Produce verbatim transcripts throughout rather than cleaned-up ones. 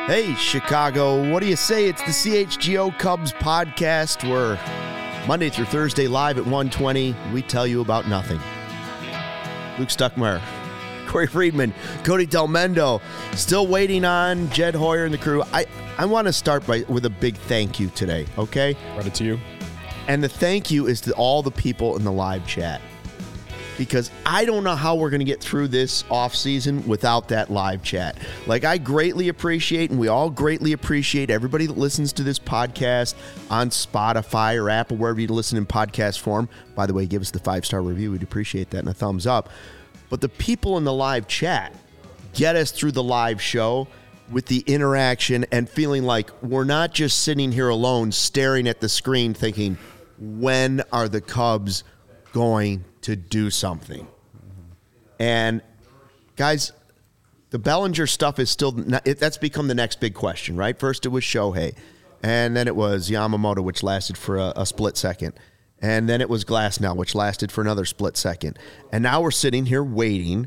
Hey, Chicago, what do you say? It's the C H G O Cubs podcast where Monday through Thursday live at one twenty, we tell you about nothing. Luke Stuckmeyer, Corey Friedman, Cody Delmendo, still waiting on Jed Hoyer and the crew. I, I want to start by with a big thank you today, okay? Credit to you. And the thank you is to all the people in the live chat. Because I don't know how we're going to get through this offseason without that live chat. Like, I greatly appreciate, and we all greatly appreciate everybody that listens to this podcast on Spotify or Apple, wherever you listen in podcast form. By the way, give us the five-star review. We'd appreciate that and a thumbs up. But the people in the live chat get us through the live show with the interaction and feeling like we're not just sitting here alone staring at the screen thinking, when are the Cubs going to do something? And guys, the Bellinger stuff is still not, it, that's become the next big question, right? First it was Shohei, and then it was Yamamoto, which lasted for a, a split second, and then it was Glasnow, which lasted for another split second, and now we're sitting here waiting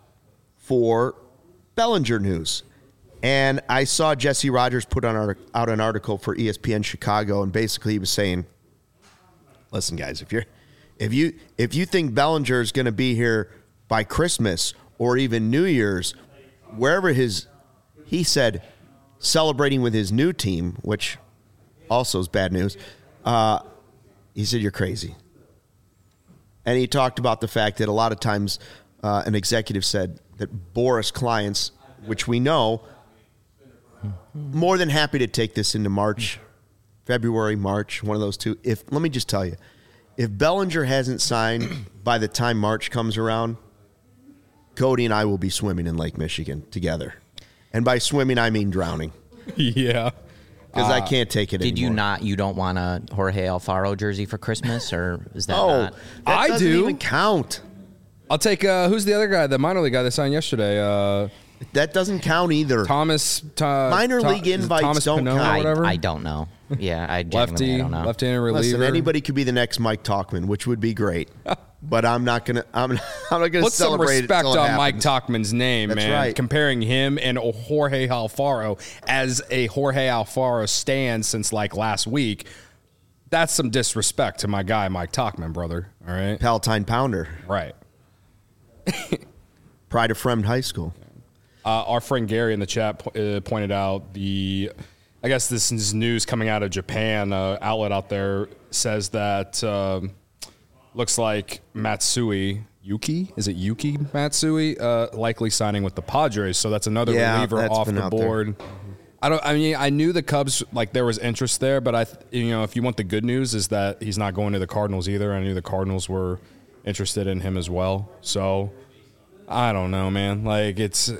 for Bellinger news. And I saw Jesse Rogers put on our, out an article for E S P N Chicago, and basically he was saying, listen guys, if you're If you if you think Bellinger is going to be here by Christmas or even New Year's, wherever his, he said, celebrating with his new team, which also is bad news, uh, he said, you're crazy. And he talked about the fact that a lot of times uh, an executive said that Boras clients, which we know, more than happy to take this into March, February, March, one of those two. If let me just tell you, if Bellinger hasn't signed by the time March comes around, Cody and I will be swimming in Lake Michigan together. And by swimming, I mean drowning. Yeah. Because uh, I can't take it did anymore. Did you not, you don't want a Jorge Alfaro jersey for Christmas, or is that oh, not? That I doesn't do. even count. I'll take, uh, who's the other guy, the minor league guy that signed yesterday? Uh, That doesn't count either. Thomas. Uh, Minor Tom, league invites Thomas don't Pannone count. or whatever? I, I don't know. Yeah, I genuinely Lefty, I don't know. left-handed reliever. Listen, anybody could be the next Mike Talkman, which would be great. But I'm not gonna. I'm, I'm not gonna Put some celebrate respect it until it on Mike happens. Talkman's name, That's man. right. Comparing him and Jorge Alfaro as a Jorge Alfaro stand since like last week, that's some disrespect to my guy Mike Talkman, brother. All right, Palatine Pounder, right. Pride of Fremd High School. Uh, our friend Gary in the chat po- uh, pointed out the, I guess this is news coming out of Japan. Uh, outlet out there says that um, looks like Matsui Yuki, is it Yuki Matsui, uh, likely signing with the Padres. So that's another Yeah, reliever that's off been the out there. board. I don't. I mean, I knew the Cubs, like there was interest there, but I, you know, if you want the good news, is that he's not going to the Cardinals either. I knew the Cardinals were interested in him as well. So I don't know, man. Like it's.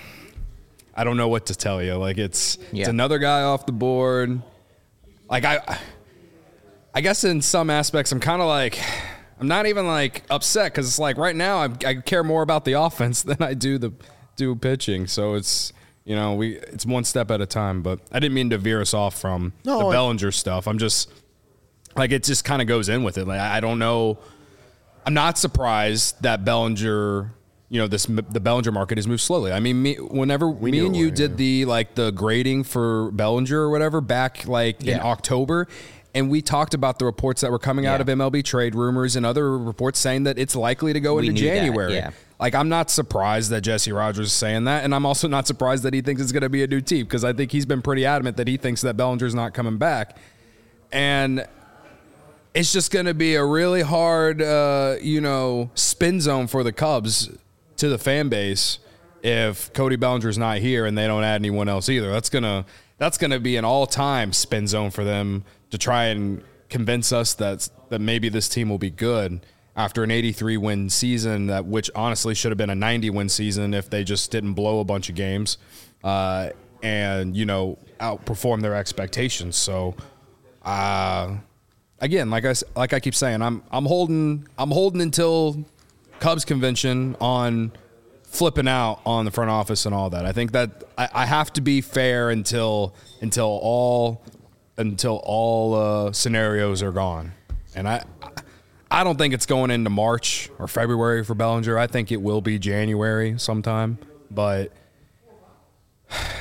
I don't know what to tell you. Like it's Yeah. it's another guy off the board. Like I I guess in some aspects I'm kind of like I'm not even like upset cuz it's like right now I, I care more about the offense than I do the do pitching. So it's you know, we it's one step at a time, but I didn't mean to veer us off from No, the I- Bellinger stuff. I'm just like it just kind of goes in with it. Like I don't know. I'm not surprised that Bellinger You know, this the Bellinger market has moved slowly. I mean, me, whenever We me knew and it you would, did yeah. the like the grading for Bellinger or whatever back like in Yeah. October, and we talked about the reports that were coming out Yeah. of M L B trade rumors and other reports saying that it's likely to go We into knew that, January. yeah. Like, I'm not surprised that Jesse Rogers is saying that, and I'm also not surprised that he thinks it's going to be a new team because I think he's been pretty adamant that he thinks that Bellinger's not coming back, and it's just going to be a really hard, uh, you know, spin zone for the Cubs to the fan base if Cody Bellinger's not here and they don't add anyone else either. That's gonna that's gonna be an all-time spin zone for them to try and convince us that that maybe this team will be good after an eighty-three win season, that which honestly should have been a ninety win season if they just didn't blow a bunch of games uh, and you know outperform their expectations. So. Uh, Again, like I like I keep saying, I'm I'm holding I'm holding until Cubs convention on flipping out on the front office and all that. I think that I, I have to be fair until until all until all uh, scenarios are gone, and I I don't think it's going into March or February for Bellinger. I think it will be January sometime, but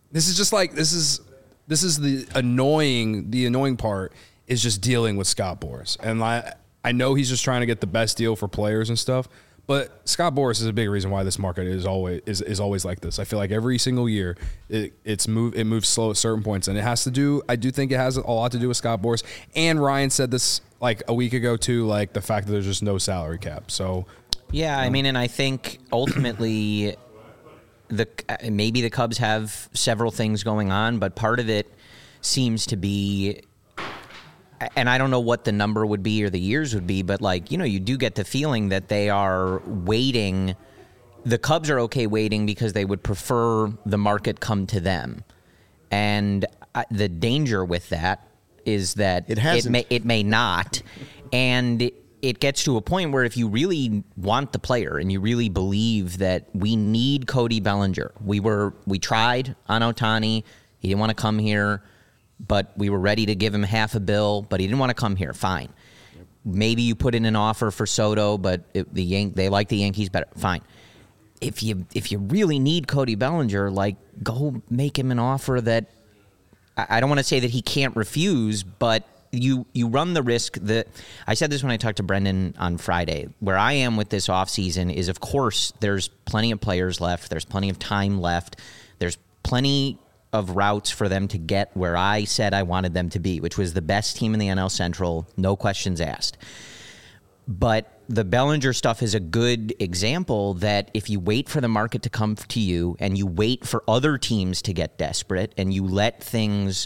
This is just like this is this is the annoying the annoying part is just dealing with Scott Boras. And I I know he's just trying to get the best deal for players and stuff, but Scott Boras is a big reason why this market is always is, is always like this. I feel like every single year it it's move it moves slow at certain points, and it has to do I do think it has a lot to do with Scott Boras. And Ryan said this like a week ago too, like the fact that there's just no salary cap. So yeah, I mean, and I think ultimately the maybe the Cubs have several things going on, but part of it seems to be, and I don't know what the number would be or the years would be, but like, you know, you do get the feeling that they are waiting. The Cubs are okay waiting because they would prefer the market come to them. And uh, the danger with that is that it, hasn't. it may it may not. And it gets to a point where if you really want the player and you really believe that we need Cody Bellinger, we were we tried on Ohtani. He didn't want to come here, but we were ready to give him half a bill, but he didn't want to come here. Fine. Yep. Maybe you put in an offer for Soto, but it, the Yan- they like the Yankees better. Fine. If you if you really need Cody Bellinger, like go make him an offer that I, I don't want to say that he can't refuse, but you you run the risk that I said this when I talked to Brendan on Friday. Where I am with this offseason is, of course, there's plenty of players left. There's plenty of time left. There's plenty of routes for them to get where I said I wanted them to be, which was the best team in the N L Central, no questions asked. But the Bellinger stuff is a good example that if you wait for the market to come to you and you wait for other teams to get desperate and you let things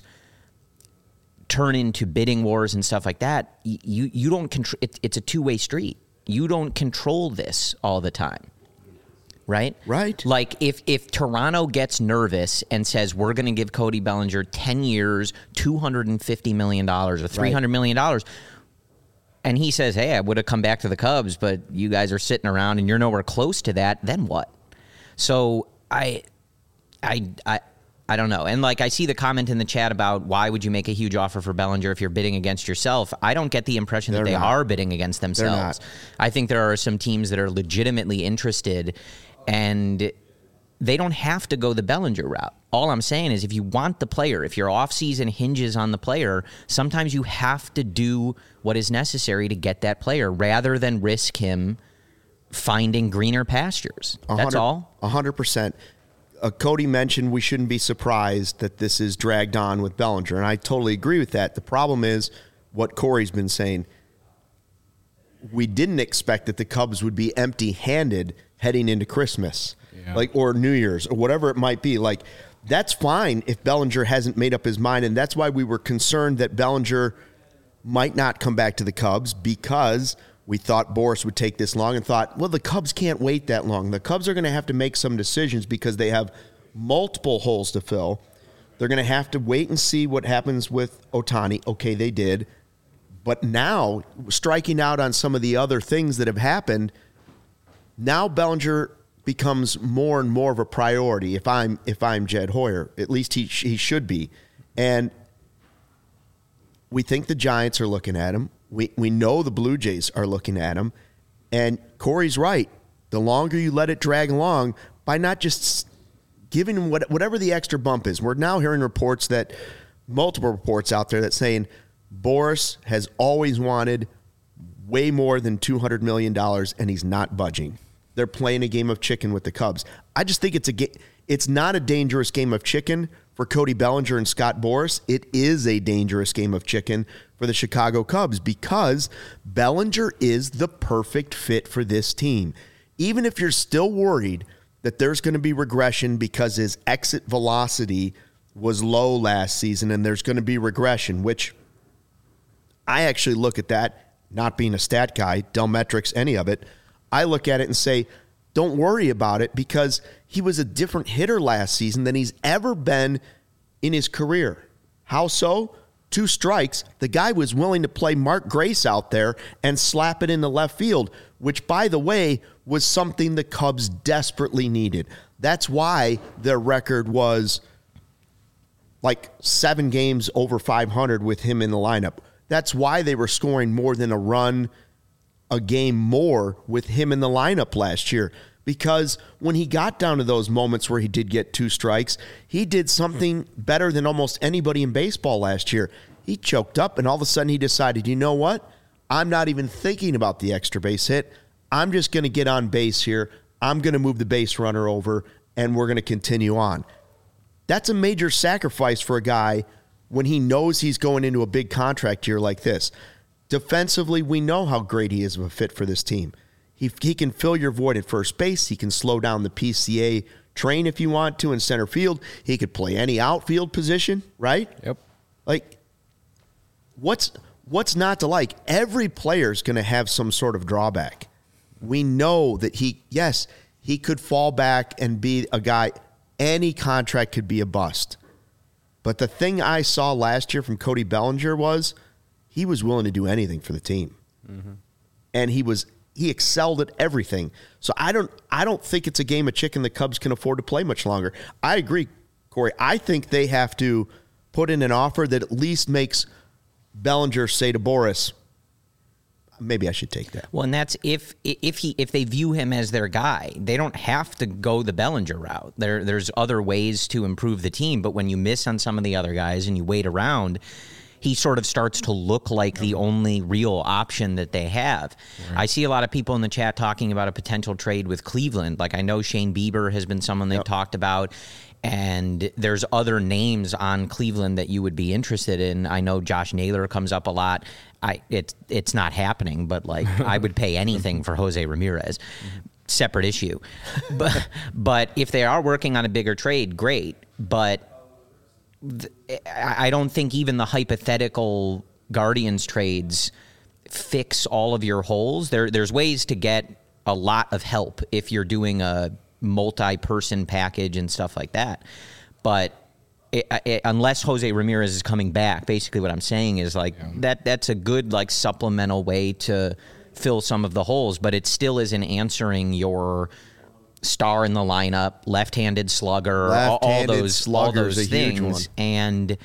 turn into bidding wars and stuff like that, you you don't control. It, it's a two-way street. You don't control this all the time, right? Right. Like if if Toronto gets nervous and says we're going to give Cody Bellinger ten years, two hundred fifty million dollars or three hundred million dollars, and he says, hey, I would have come back to the Cubs, but you guys are sitting around and you're nowhere close to that, then what? So I, I, I. I don't know. And like I see the comment in the chat about why would you make a huge offer for Bellinger if you're bidding against yourself? I don't get the impression They're that they not. are bidding against themselves. I think there are some teams that are legitimately interested, and they don't have to go the Bellinger route. All I'm saying is if you want the player, if your offseason hinges on the player, sometimes you have to do what is necessary to get that player rather than risk him finding greener pastures. That's all. one hundred percent. Uh, Cody mentioned we shouldn't be surprised that this is dragged on with Bellinger, and I totally agree with that. The problem is what Corey's been saying. We didn't expect that the Cubs would be empty-handed heading into Christmas, yeah. like or New Year's or whatever it might be. Like that's fine if Bellinger hasn't made up his mind, and that's why we were concerned that Bellinger might not come back to the Cubs because we thought Boras would take this long and thought, well, the Cubs can't wait that long. The Cubs are going to have to make some decisions because they have multiple holes to fill. They're going to have to wait and see what happens with Ohtani. Okay, they did. But now, striking out on some of the other things that have happened, now Bellinger becomes more and more of a priority if I'm if I'm Jed Hoyer. At least he he should be. And we think the Giants are looking at him. We we know the Blue Jays are looking at him, and Corey's right. The longer you let it drag along, by not just giving him what, whatever the extra bump is. We're now hearing reports that, multiple reports out there that saying Boras has always wanted way more than two hundred million dollars, and he's not budging. They're playing a game of chicken with the Cubs. I just think it's a ga- it's not a dangerous game of chicken for Cody Bellinger and Scott Boras. It is a dangerous game of chicken for the Chicago Cubs because Bellinger is the perfect fit for this team. Even if you're still worried that there's going to be regression because his exit velocity was low last season and there's going to be regression, which I actually look at that, not being a stat guy, Delmetrics, any of it, I look at it and say, don't worry about it because he was a different hitter last season than he's ever been in his career. How so? Two strikes. The guy was willing to play Mark Grace out there and slap it into left field, which, by the way, was something the Cubs desperately needed. That's why their record was like seven games over five hundred with him in the lineup. That's why they were scoring more than a run a game more with him in the lineup last year, because when he got down to those moments where he did get two strikes, he did something better than almost anybody in baseball last year. He choked up, and all of a sudden he decided, you know what? I'm not even thinking about the extra base hit. I'm just going to get on base here. I'm going to move the base runner over, and we're going to continue on. That's a major sacrifice for a guy when he knows he's going into a big contract year like this. Defensively, we know how great he is of a fit for this team. He he can fill your void at first base. He can slow down the P C A train if you want to in center field. He could play any outfield position, right? Yep. Like, what's what's not to like? Every player's going to have some sort of drawback. We know that he, yes, he could fall back and be a guy. Any contract could be a bust. But the thing I saw last year from Cody Bellinger was he was willing to do anything for the team. Mm-hmm. And he was he excelled at everything. So I don't I don't think it's a game of chicken the Cubs can afford to play much longer. I agree, Corey. I think they have to put in an offer that at least makes Bellinger say to Boris, maybe I should take that. Well, and that's if if he if they view him as their guy. They don't have to go the Bellinger route. There there's other ways to improve the team, but when you miss on some of the other guys and you wait around, he sort of starts to look like the only real option that they have. Right. I see a lot of people in the chat talking about a potential trade with Cleveland. Like I know Shane Bieber has been someone they've yep. talked about. And there's other names on Cleveland that you would be interested in. I know Josh Naylor comes up a lot. I it's it's not happening, but like I would pay anything for Jose Ramirez. Separate issue. But but if they are working on a bigger trade, great. But th- I don't think even the hypothetical Guardians trades fix all of your holes. There there's ways to get a lot of help if you're doing a multi-person package and stuff like that. But it, it, unless Jose Ramirez is coming back, basically what I'm saying is like yeah. that that's a good like supplemental way to fill some of the holes, but it still isn't answering your star in the lineup, left-handed slugger, left-handed all, all those all those things. And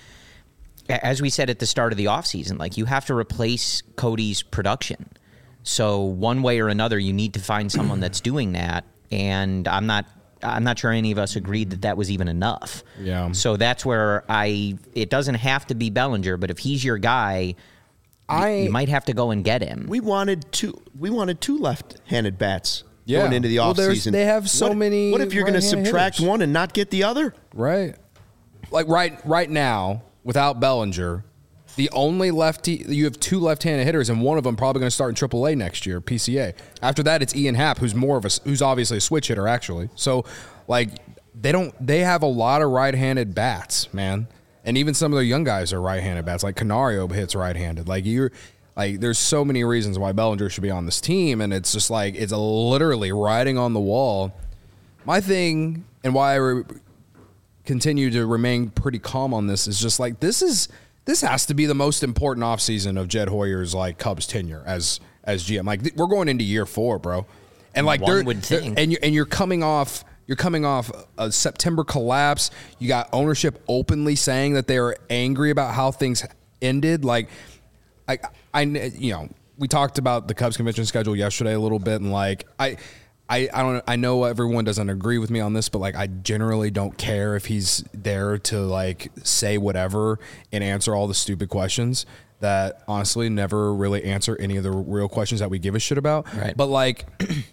as we said at the start of the offseason, like you have to replace Cody's production. So one way or another, you need to find someone that's doing that. And I'm not I'm not sure any of us agreed that that was even enough. Yeah. So that's where I it doesn't have to be Bellinger, but if he's your guy, I, you might have to go and get him. We wanted two we wanted two left-handed bats yeah. going into the well, offseason. They have so what, many What if you're going to subtract hitters? one and not get the other? Right. Like right right now, without Bellinger, the only lefty, you have two left-handed hitters, and one of them probably going to start in triple A next year, P C A. After that, it's Ian Happ, who's more of a, who's obviously a switch hitter, actually. So, like, they don't, they have a lot of right-handed bats, man. And even some of their young guys are right-handed bats. Like Canario hits right-handed. Like you're, like, there's so many reasons why Bellinger should be on this team, and it's just like it's literally writing on the wall. My thing, and why I re- continue to remain pretty calm on this, is just like this is. This has to be the most important offseason of Jed Hoyer's like Cubs tenure as as G M. Like th- we're going into year four, bro, and like One they're, would they're think. and you're and you're coming off you're coming off a September collapse. You got ownership openly saying that they are angry about how things ended. Like I I you know we talked about the Cubs convention schedule yesterday a little bit, and like I. I, I don't I know everyone doesn't agree with me on this, but like I generally don't care if he's there to like say whatever and answer all the stupid questions that honestly never really answer any of the real questions that we give a shit about. Right. But like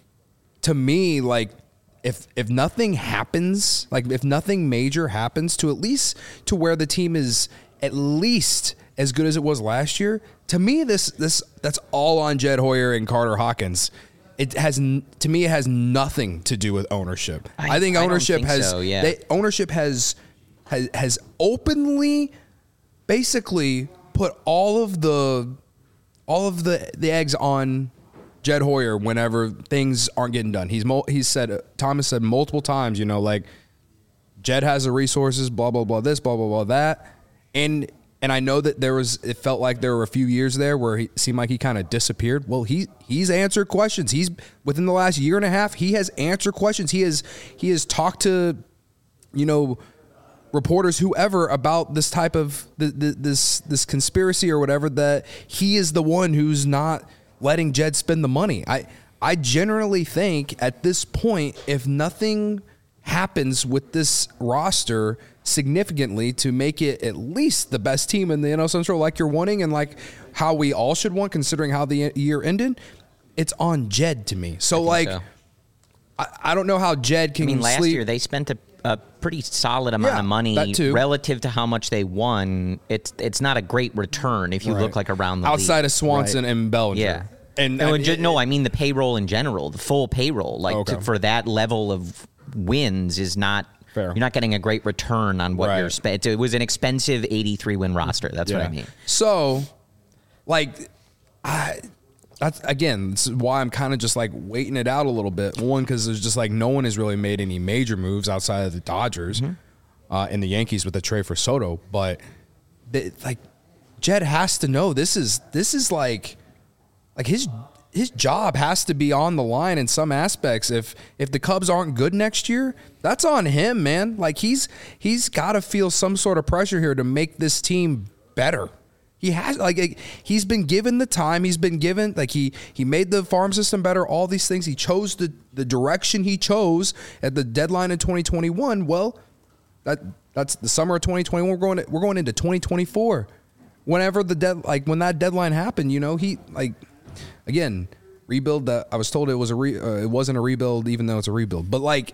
to me, like if if nothing happens, like if nothing major happens to at least to where the team is at least as good as it was last year, to me this this that's all on Jed Hoyer and Carter Hawkins. It has, to me, it has nothing to do with ownership. I, I think ownership I don't think has, so, yeah. they, ownership has, has, has openly, basically put all of the, all of the, the eggs on Jed Hoyer whenever things aren't getting done. He's, he's said, Thomas said multiple times, you know, like Jed has the resources, blah, blah, blah, this, blah, blah, blah, that. And, And I know that there was, it felt like there were a few years there where he seemed like he kind of disappeared. Well, he he's answered questions. He's within the last year and a half, he has answered questions. He has he has talked to, you know, reporters, whoever, about this type of this this conspiracy or whatever. That he is the one who's not letting Jed spend the money. I I generally think at this point, if nothing happens with this roster significantly to make it at least the best team in the N L Central like you're wanting and like how we all should want considering how the year ended, it's on Jed to me. So like so. I, I don't know how Jed can I mean, last sleep. year they spent a, a pretty solid amount Yeah, of money that too. relative to how much they won. It's it's not a great return if you Right. look like around the outside league. of Swanson Right. and Bellinger. Yeah. And, no, and and ju- it- no, I mean the payroll in general, the full payroll, like Okay. to, for that level of wins is not. Fair. You're not getting a great return on what Right. you're spending. It was an expensive eighty-three win roster. That's what I mean. So, like, I that's again this is why I'm kind of just like waiting it out a little bit. One, because there's just like no one has really made any major moves outside of the Dodgers Mm-hmm. uh, and the Yankees with the trade for Soto. But they, like, Jed has to know this is this is like like his his job has to be on the line in some aspects. If if the Cubs aren't good next year, that's on him, man. Like he's he's got to feel some sort of pressure here to make this team better. He has like he's been given the time. He's been given like he he made the farm system better. All these things. He chose the the direction he chose at the deadline in twenty twenty-one. Well, that that's the summer of twenty twenty-one. We're going to, we're going into twenty twenty-four. Whenever the dead like when that deadline happened, you know he like. Again, rebuild. That I was told it was a re, uh, it wasn't a rebuild, even though it's a rebuild. But like,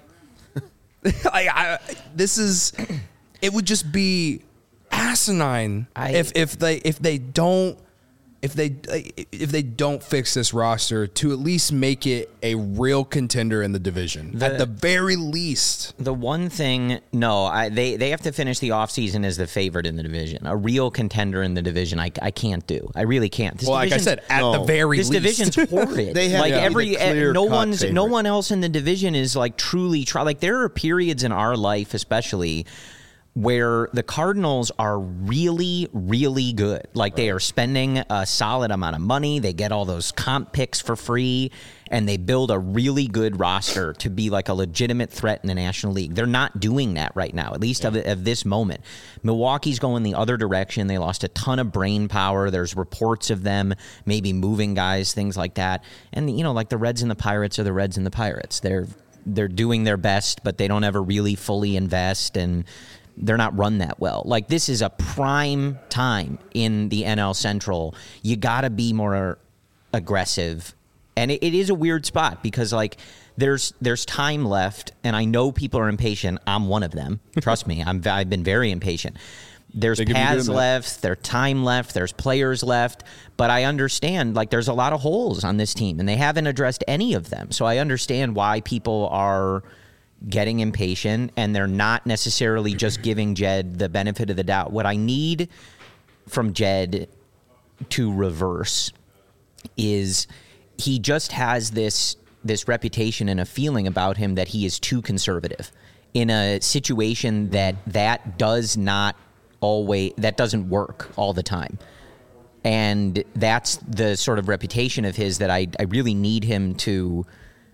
I, I, this is, it would just be asinine I- if if they if they don't if they if they don't fix this roster to at least make it a real contender in the division The- at the very least. The one thing, no, I, they they have to finish the offseason as the favorite in the division. A real contender in the division, I, I can't do. I really can't. This Well, like I division's- said, at No. the very this least, division's horrid. They have like to be every the eh, no clear-cut one's no favorite. one else in the division is like truly try. Like there are periods in our life, especially, where the Cardinals are really, really good. Like they are spending a solid amount of money. They get all those comp picks for free, and they build a really good roster to be like a legitimate threat in the National League. They're not doing that right now, at least of, of this moment. Milwaukee's going the other direction. They lost a ton of brain power. There's reports of them maybe moving guys, things like that. And, you know, like the Reds and the Pirates are the Reds and the Pirates. They're they're doing their best, but they don't ever really fully invest, and they're not run that well. Like this is a prime time in the N L Central. You got to be more aggressive, and it, it is a weird spot because like there's there's time left, and I know people are impatient. I'm one of them. Trust me, I'm I've been very impatient. There's They could be paths doing that. left, there's time left, there's players left, but I understand like there's a lot of holes on this team, and they haven't addressed any of them. So I understand why people are getting impatient, and they're not necessarily just giving Jed the benefit of the doubt. What I need from Jed to reverse is he just has this this reputation and a feeling about him that he is too conservative in a situation that that does not always that doesn't work all the time. And that's the sort of reputation of his that I, I really need him to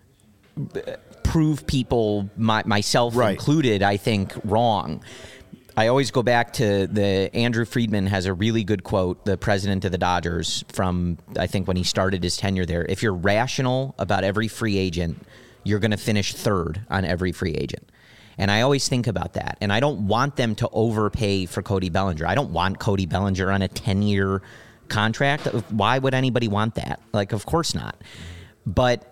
prove people, my, myself Right. included, I think, wrong. I always go back to the Andrew Friedman has a really good quote, the president of the Dodgers, from I think when he started his tenure there. If you're rational about every free agent, you're going to finish third on every free agent. And I always think about that. And I don't want them to overpay for Cody Bellinger. I don't want Cody Bellinger on a ten-year contract. Why would anybody want that? Like, of course not. But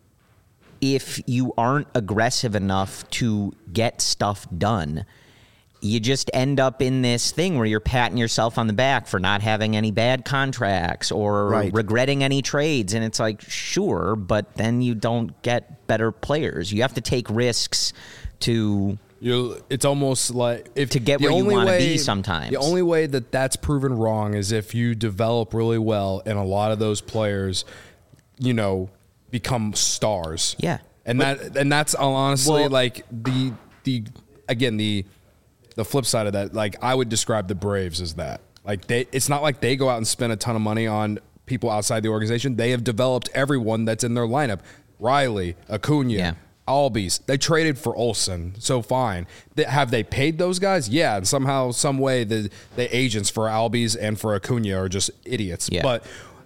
if you aren't aggressive enough to get stuff done, you just end up in this thing where you're patting yourself on the back for not having any bad contracts or Right. regretting any trades. And it's like, sure, but then you don't get better players. You have to take risks to You, it's almost like if To get the where you only wanna way- be sometimes. The only way that that's proven wrong is if you develop really well, and a lot of those players, you know, become stars. Yeah. and that and that's honestly Well- like the the again the the flip side of that. Like I would describe the Braves as that. Like they, it's not like they go out and spend a ton of money on people outside the organization. They have developed everyone that's in their lineup. Riley, Acuna. Yeah. Albies. They traded for Olsen, so fine. They, have they paid those guys? Yeah, and somehow, some way, the the agents for Albies and for Acuna are just idiots. Yeah. But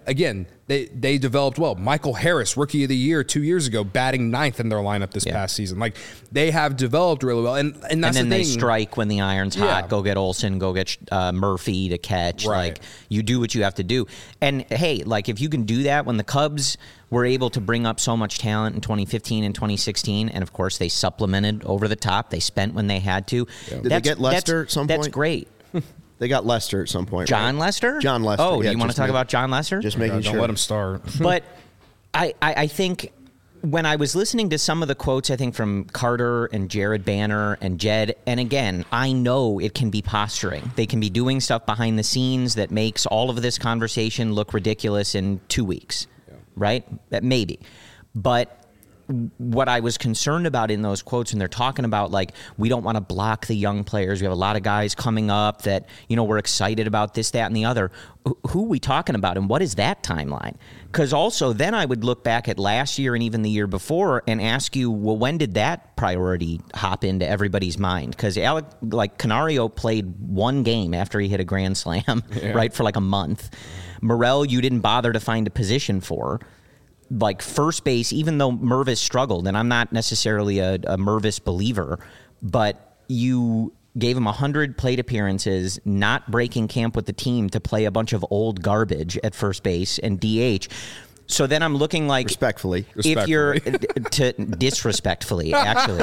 again, they they developed well. Michael Harris, rookie of the year two years ago, batting ninth in their lineup this yeah. past season. Like they have developed really well, and and that's and then the they thing. strike when the iron's yeah. hot. Go get Olsen. Go get uh, Murphy to catch. Right. Like you do what you have to do. And hey, like if you can do that, when the Cubs were able to bring up so much talent in twenty fifteen and twenty sixteen, and of course they supplemented over the top. They spent when they had to. Yeah. Did they get Lester at some that's point? That's great. They got Lester at some point. John right? Lester? John Lester. Oh, yeah, do you want to talk make, about John Lester? Just making God, sure. Don't let him start. But I, I, I think when I was listening to some of the quotes, I think from Carter and Jared Banner and Jed, and again, I know it can be posturing. They can be doing stuff behind the scenes that makes all of this conversation look ridiculous in two weeks, yeah. right? That maybe. But what I was concerned about in those quotes, and they're talking about, like, we don't want to block the young players. We have a lot of guys coming up that, you know, we're excited about this, that, and the other. Who are we talking about, and what is that timeline? Because also then I would look back at last year and even the year before and ask you, well, when did that priority hop into everybody's mind? Because Alec, like, Canario played one game after he hit a grand slam, yeah. right, for like a month. Morel, you didn't bother to find a position for. Like first base, even though Mervis struggled, and I'm not necessarily a, a Mervis believer, but you gave him one hundred plate appearances, not breaking camp with the team to play a bunch of old garbage at first base and D H. So then I'm looking like... Respectfully. If you're... to disrespectfully, actually.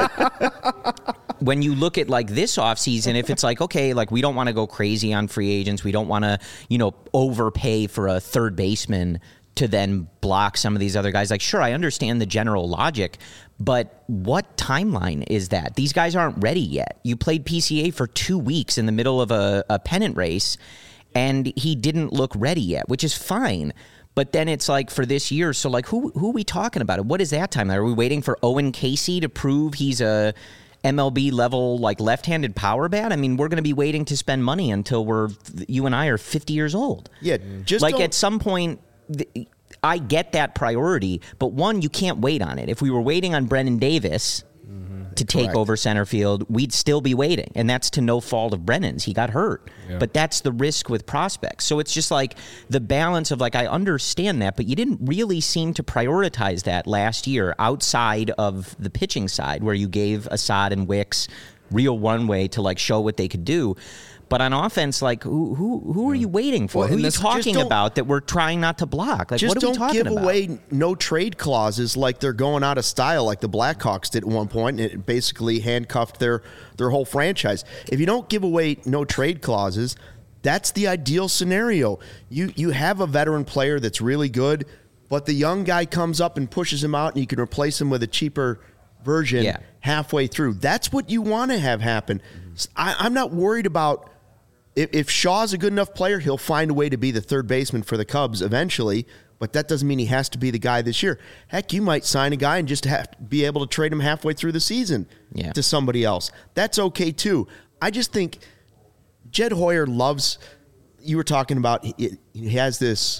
When you look at like this offseason, if it's like, okay, like we don't want to go crazy on free agents. We don't want to, you know, overpay for a third baseman to then block some of these other guys. Like, sure, I understand the general logic, but what timeline is that? These guys aren't ready yet. You played P C A for two weeks in the middle of a, a pennant race, and he didn't look ready yet, which is fine. But then it's like for this year, so like who who are we talking about? What is that timeline? Are we waiting for Owen Casey to prove he's a M L B level, like left-handed power bat? I mean, we're going to be waiting to spend money until we're, you and I are fifty years old. Yeah, just like don't- at some point... The, I get that priority, but one, you can't wait on it. If we were waiting on Brennan Davis mm-hmm. to take Correct. over center field, we'd still be waiting, and that's to no fault of Brennan's. He got hurt, yeah. but that's the risk with prospects. So it's just like the balance of like, I understand that, but you didn't really seem to prioritize that last year outside of the pitching side where you gave Assad and Wicks real one-way to like show what they could do. But on offense, like, who who who are you waiting for? Well, who are you this- talking about that we're trying not to block? Like, Just what are we don't talking give about? away no trade clauses like they're going out of style, like the Blackhawks did at one point, and it basically handcuffed their, their whole franchise. If you don't give away no trade clauses, that's the ideal scenario. You you have a veteran player that's really good, but the young guy comes up and pushes him out, and you can replace him with a cheaper version Yeah. halfway through. That's what you want to have happen. I, I'm not worried about... If, if Shaw's a good enough player, he'll find a way to be the third baseman for the Cubs eventually, but that doesn't mean he has to be the guy this year. Heck, you might sign a guy and just have to be able to trade him halfway through the season yeah. to somebody else. That's okay, too. I just think Jed Hoyer loves, you were talking about, he, he has this,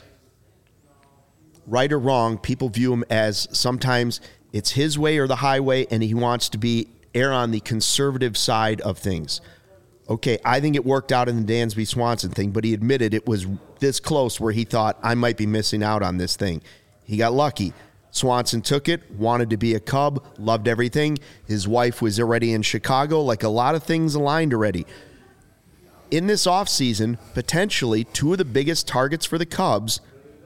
right or wrong, people view him as sometimes it's his way or the highway, and he wants to be err on the conservative side of things. Okay, I think it worked out in the Dansby Swanson thing, but he admitted it was this close where he thought, I might be missing out on this thing. He got lucky. Swanson took it, wanted to be a Cub, loved everything. His wife was already in Chicago, like a lot of things aligned already. In this offseason, potentially two of the biggest targets for the Cubs,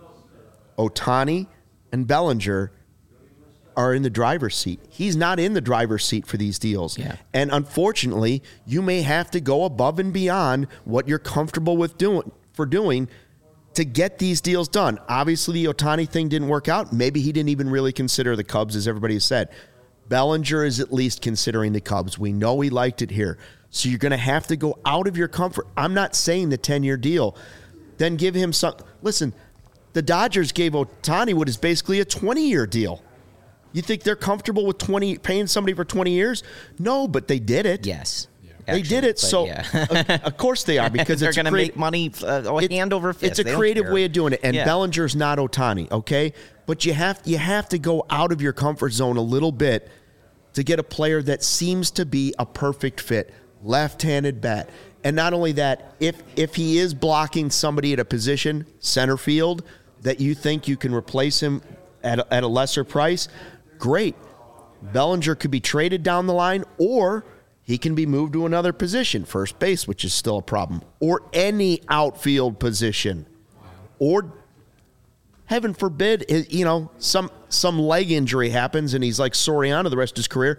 Ohtani and Bellinger, are in the driver's seat. He's not in the driver's seat for these deals. Yeah. And unfortunately, you may have to go above and beyond what you're comfortable with doing for doing to get these deals done. Obviously, the Ohtani thing didn't work out. Maybe he didn't even really consider the Cubs, as everybody has said. Bellinger is at least considering the Cubs. We know he liked it here. So you're going to have to go out of your comfort. I'm not saying the ten-year deal. Then give him some. Listen, the Dodgers gave Ohtani what is basically a twenty-year deal. You think they're comfortable with twenty paying somebody for twenty years? No, but they did it. Yes. They Actually, did it, but so yeah. of course they are, because they're it's going to great- make money uh, it- hand over fist. It's a They don't creative care. way of doing it, and Yeah. Bellinger's not Ohtani, okay? But you have you have to go out of your comfort zone a little bit to get a player that seems to be a perfect fit, left-handed bat. And not only that, if if he is blocking somebody at a position, center field, that you think you can replace him at a, at a lesser price, great. Bellinger could be traded down the line, or he can be moved to another position, first base, which is still a problem, or any outfield position, or heaven forbid, you know, some some leg injury happens and he's like Soriano the rest of his career.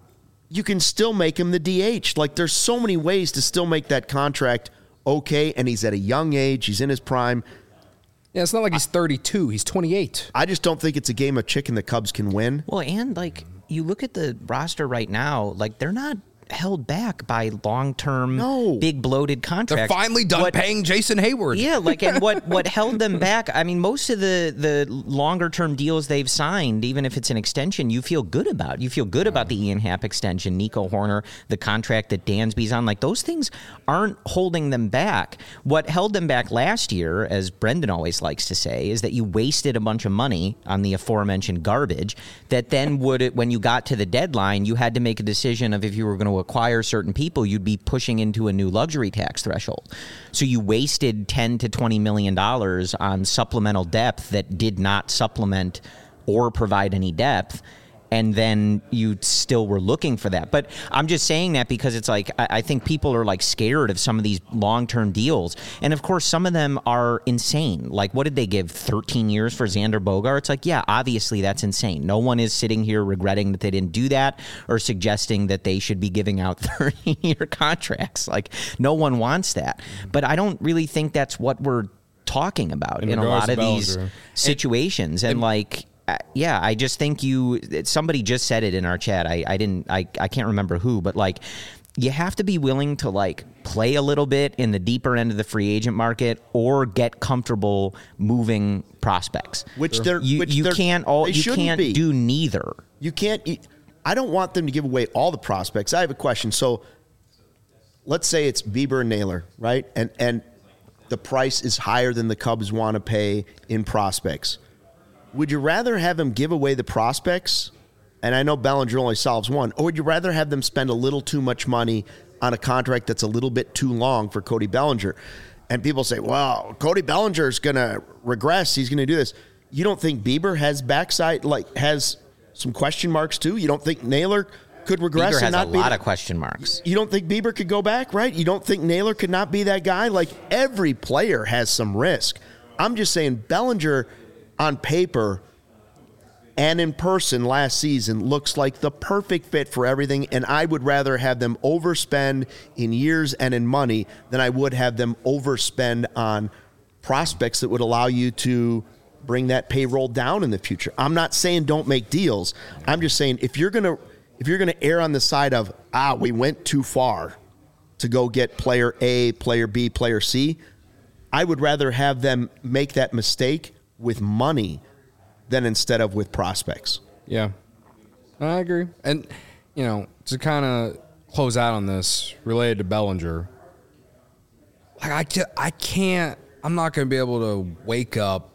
You can still make him the D H. Like, there's so many ways to still make that contract okay, and he's at a young age. He's in his prime. Yeah, it's not like he's thirty-two. He's twenty-eight. I just don't think it's a game of chicken the Cubs can win. Well, and, like, you look at the roster right now, like, they're not held back by long-term, no. big bloated contracts. They're finally done what, paying Jason Hayward. Yeah, like, and what, what held them back, I mean, most of the, the longer-term deals they've signed, even if it's an extension, you feel good about. You feel good about the Ian Happ extension, Nico Horner, the contract that Dansby's on. Like, those things aren't holding them back. What held them back last year, as Brendan always likes to say, is that you wasted a bunch of money on the aforementioned garbage that then would, when you got to the deadline, you had to make a decision of if you were going to acquire certain people, you'd be pushing into a new luxury tax threshold. So you wasted ten to twenty million dollars on supplemental depth that did not supplement or provide any depth. And then you still were looking for that. But I'm just saying that because it's like, I, I think people are like scared of some of these long-term deals. And of course, some of them are insane. Like, what did they give, thirteen years for Xander Bogaerts? It's like, yeah, obviously that's insane. No one is sitting here regretting that they didn't do that or suggesting that they should be giving out thirty-year contracts. Like, no one wants that. But I don't really think that's what we're talking about in, in a lot of these situations. And, and like... Uh, yeah, I just think you, somebody just said it in our chat. I, I didn't, I, I can't remember who, but like, you have to be willing to like play a little bit in the deeper end of the free agent market or get comfortable moving prospects. Which they're, you, which you they're, can't all, they you can't be. do neither. You can't, I don't want them to give away all the prospects. I have a question. So let's say it's Bieber and Naylor, right? And, and the price is higher than the Cubs want to pay in prospects. Would you rather have them give away the prospects, and I know Bellinger only solves one, or would you rather have them spend a little too much money on a contract that's a little bit too long for Cody Bellinger? And people say, well, Cody Bellinger is going to regress. He's going to do this. You don't think Bieber has backside, like has some question marks too? You don't think Naylor could regress Bieber and has not a be lot that? of question marks. You don't think Bieber could go back, right? You don't think Naylor could not be that guy? Like, every player has some risk. I'm just saying Bellinger on paper and in person last season looks like the perfect fit for everything, and I would rather have them overspend in years and in money than I would have them overspend on prospects that would allow you to bring that payroll down in the future. I'm not saying don't make deals. I'm just saying if you're gonna if you're gonna err on the side of ah we went too far to go get player A, player B, player C, I would rather have them make that mistake with money than instead of with prospects. Yeah, I agree. And, you know, to kind of close out on this related to Bellinger, like I can't, I can't, I'm not going to be able to wake up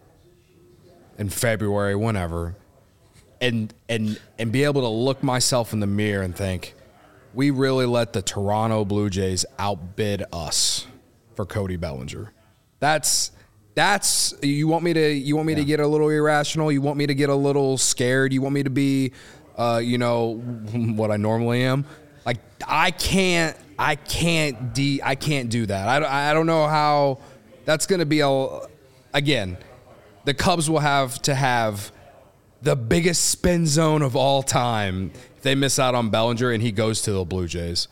in February, whenever, and and and be able to look myself in the mirror and think, we really let the Toronto Blue Jays outbid us for Cody Bellinger. That's that's you want me to you want me yeah. to get a little irrational. You want me to get a little scared. You want me to be, uh, you know, what I normally am. Like I can't I can't de I can't do that. I I don't know how that's going to be a again. The Cubs will have to have the biggest spin zone of all time if they miss out on Bellinger and he goes to the Blue Jays.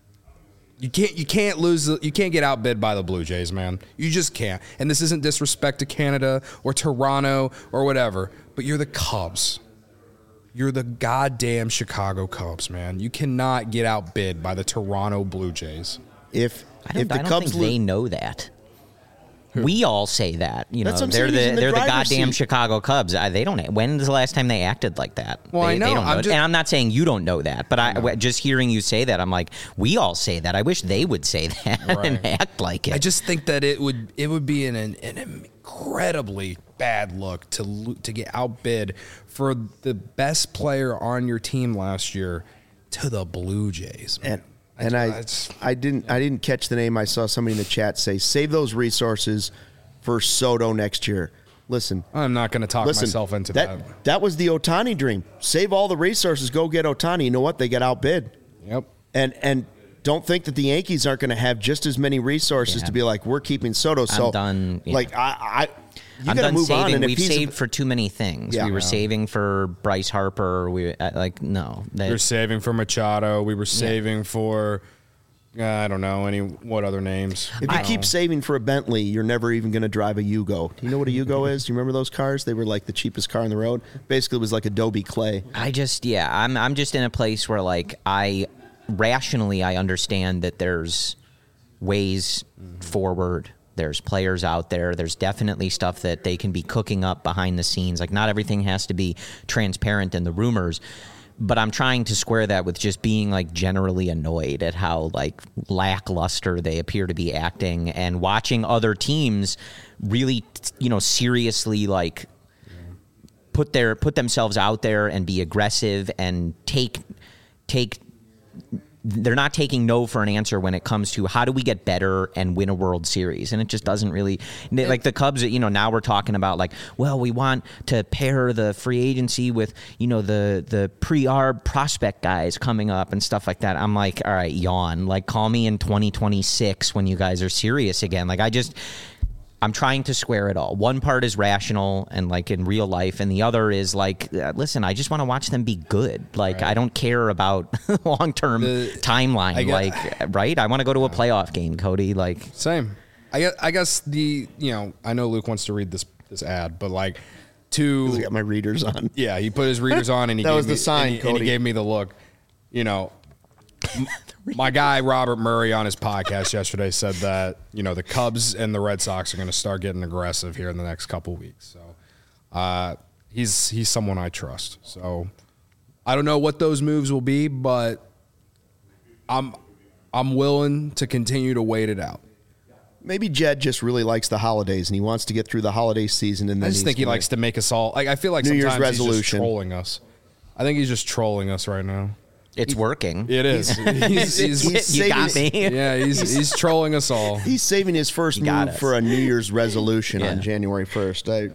You can't you can't lose you can't get outbid by the Blue Jays, man. You just can't. And this isn't disrespect to Canada or Toronto or whatever, but you're the Cubs. You're the goddamn Chicago Cubs, man. You cannot get outbid by the Toronto Blue Jays. If I don't, if the I don't Cubs think lo- they know that. Who? We all say that, you know. That's what I'm they're saying, he's the, in the they're the driver's goddamn seat. Chicago Cubs. I, they don't. When's the last time they acted like that? Well, they, I know. They don't know I'm it. just, and I'm not saying you don't know that, but I, I just hearing you say that, I'm like, we all say that. I wish they would say that right. and act like it. I just think that it would it would be an, an, an incredibly bad look to lo- to get outbid for the best player on your team last year to the Blue Jays. And and I I, I didn't I didn't catch the name. I saw somebody in the chat say save those resources for Soto next year. Listen. I'm not going to talk listen, myself into that, that. That was the Ohtani dream. Save all the resources, go get Ohtani. You know what? They get outbid. Yep. And and don't think that the Yankees aren't going to have just as many resources Yeah. to be like, we're keeping Soto. So, I'm done. Yeah. like, I, I you I'm got to done move saving. on. And We've if he's saved for too many things. Yeah. we were Yeah. saving for Bryce Harper. We uh, like no. That, We were saving for Machado. We were saving for, uh, I don't know, any what other names. If you I- keep saving for a Bentley, you're never even going to drive a Yugo. Do you know what a Yugo is? Do you remember those cars? They were like the cheapest car on the road. Basically, it was like Adobe Clay. I just yeah. I'm I'm just in a place where like I rationally I understand that there's ways forward. There's players out there. There's definitely stuff that they can be cooking up behind the scenes. Like not everything has to be transparent in the rumors. But I'm trying to square that with just being like generally annoyed at how like lackluster they appear to be acting and watching other teams really, you know, seriously like put their put themselves out there and be aggressive and take take they're not taking no for an answer when it comes to how do we get better and win a World Series. And it just doesn't really like the Cubs, you know, now we're talking about like, well, we want to pair the free agency with, you know, the, the pre-arb prospect guys coming up and stuff like that. I'm like, all right, yawn, like call me in twenty twenty-six when you guys are serious again. Like I just, I'm trying to square it all. One part is rational and like in real life, and the other is like, uh, listen, I just want to watch them be good. Like right. I don't care about long-term the, timeline. I guess, like, right? I want to go to a playoff game, Cody. Like, same. I guess, I guess the you know I know Luke wants to read this this ad, but like to I got my readers on. Yeah, he put his readers on, and he that gave was me, the sign, and he, Cody. and he gave me the look. You know. My guy Robert Murray on his podcast yesterday said that you know the Cubs and the Red Sox are going to start getting aggressive here in the next couple weeks. So uh, he's he's someone I trust. So I don't know what those moves will be, but I'm I'm willing to continue to wait it out. Maybe Jed just really likes the holidays and he wants to get through the holiday season. And then I just think he gonna, likes to make us all like I feel like New sometimes Year's resolution. he's just trolling us. I think he's just trolling us right now. It's working. It is. He's, he's, he's you got me. Yeah, he's he's trolling us all. He's saving his first You got move us. for a New Year's resolution Yeah. on January first. I,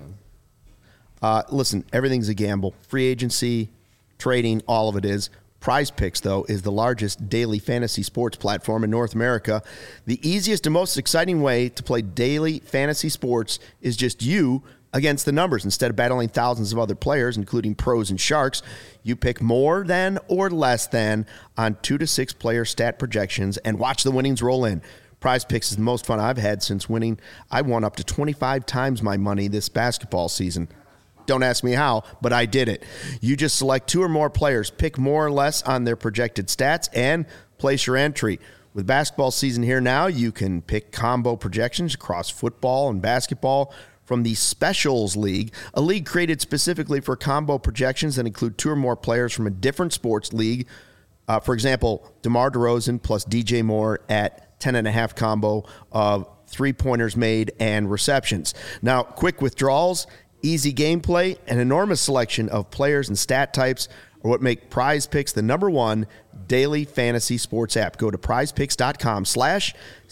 uh, listen, everything's a gamble. Free agency, trading, all of it is. Prize Picks, though, is the largest daily fantasy sports platform in North America. The easiest and most exciting way to play daily fantasy sports is just you against the numbers. Instead of battling thousands of other players, including pros and sharks, you pick more than or less than on two to six player stat projections and watch the winnings roll in. Prize Picks is the most fun I've had since winning. I won up to twenty-five times my money this basketball season. Don't ask me how, but I did it. You just select two or more players, pick more or less on their projected stats, and place your entry. With basketball season here now, you can pick combo projections across football and basketball from the Specials League, a league created specifically for combo projections that include two or more players from a different sports league. Uh, for example, DeMar DeRozan plus D J Moore at ten and a half combo of three-pointers made and receptions. Now, quick withdrawals, easy gameplay, an enormous selection of players and stat types are what make Prize Picks the number one daily fantasy sports app. Go to prizepicks.com slash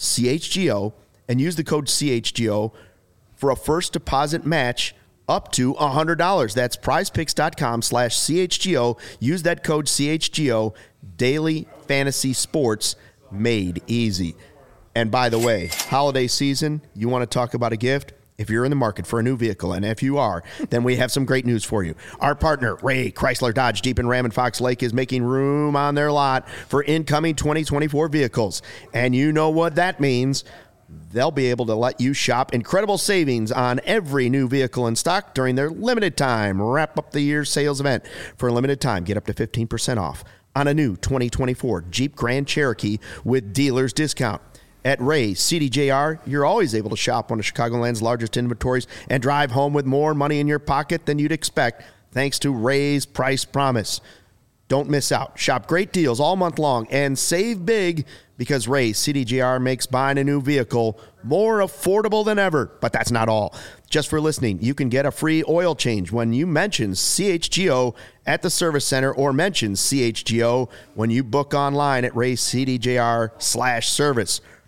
CHGO and use the code C H G O for a first deposit match up to one hundred dollars. That's prizepicks.com slash CHGO. Use that code C H G O. Daily fantasy sports made easy. And by the way, holiday season, you want to talk about a gift? If you're in the market for a new vehicle, and if you are, then we have some great news for you. Our partner, Ray Chrysler Dodge Jeep and Ram in Fox Lake, is making room on their lot for incoming twenty twenty-four vehicles. And you know what that means. They'll be able to let you shop incredible savings on every new vehicle in stock during their limited time wrap up the year's sales event. For a limited time, get up to fifteen percent off on a new twenty twenty-four Jeep Grand Cherokee with dealer's discount. At Ray C D J R, you're always able to shop one of Chicagoland's largest inventories and drive home with more money in your pocket than you'd expect thanks to Ray's Price Promise. Don't miss out. Shop great deals all month long and save big because Ray C D J R makes buying a new vehicle more affordable than ever. But that's not all. Just for listening, you can get a free oil change when you mention C H G O at the service center or mention C H G O when you book online at raycdjr slash service.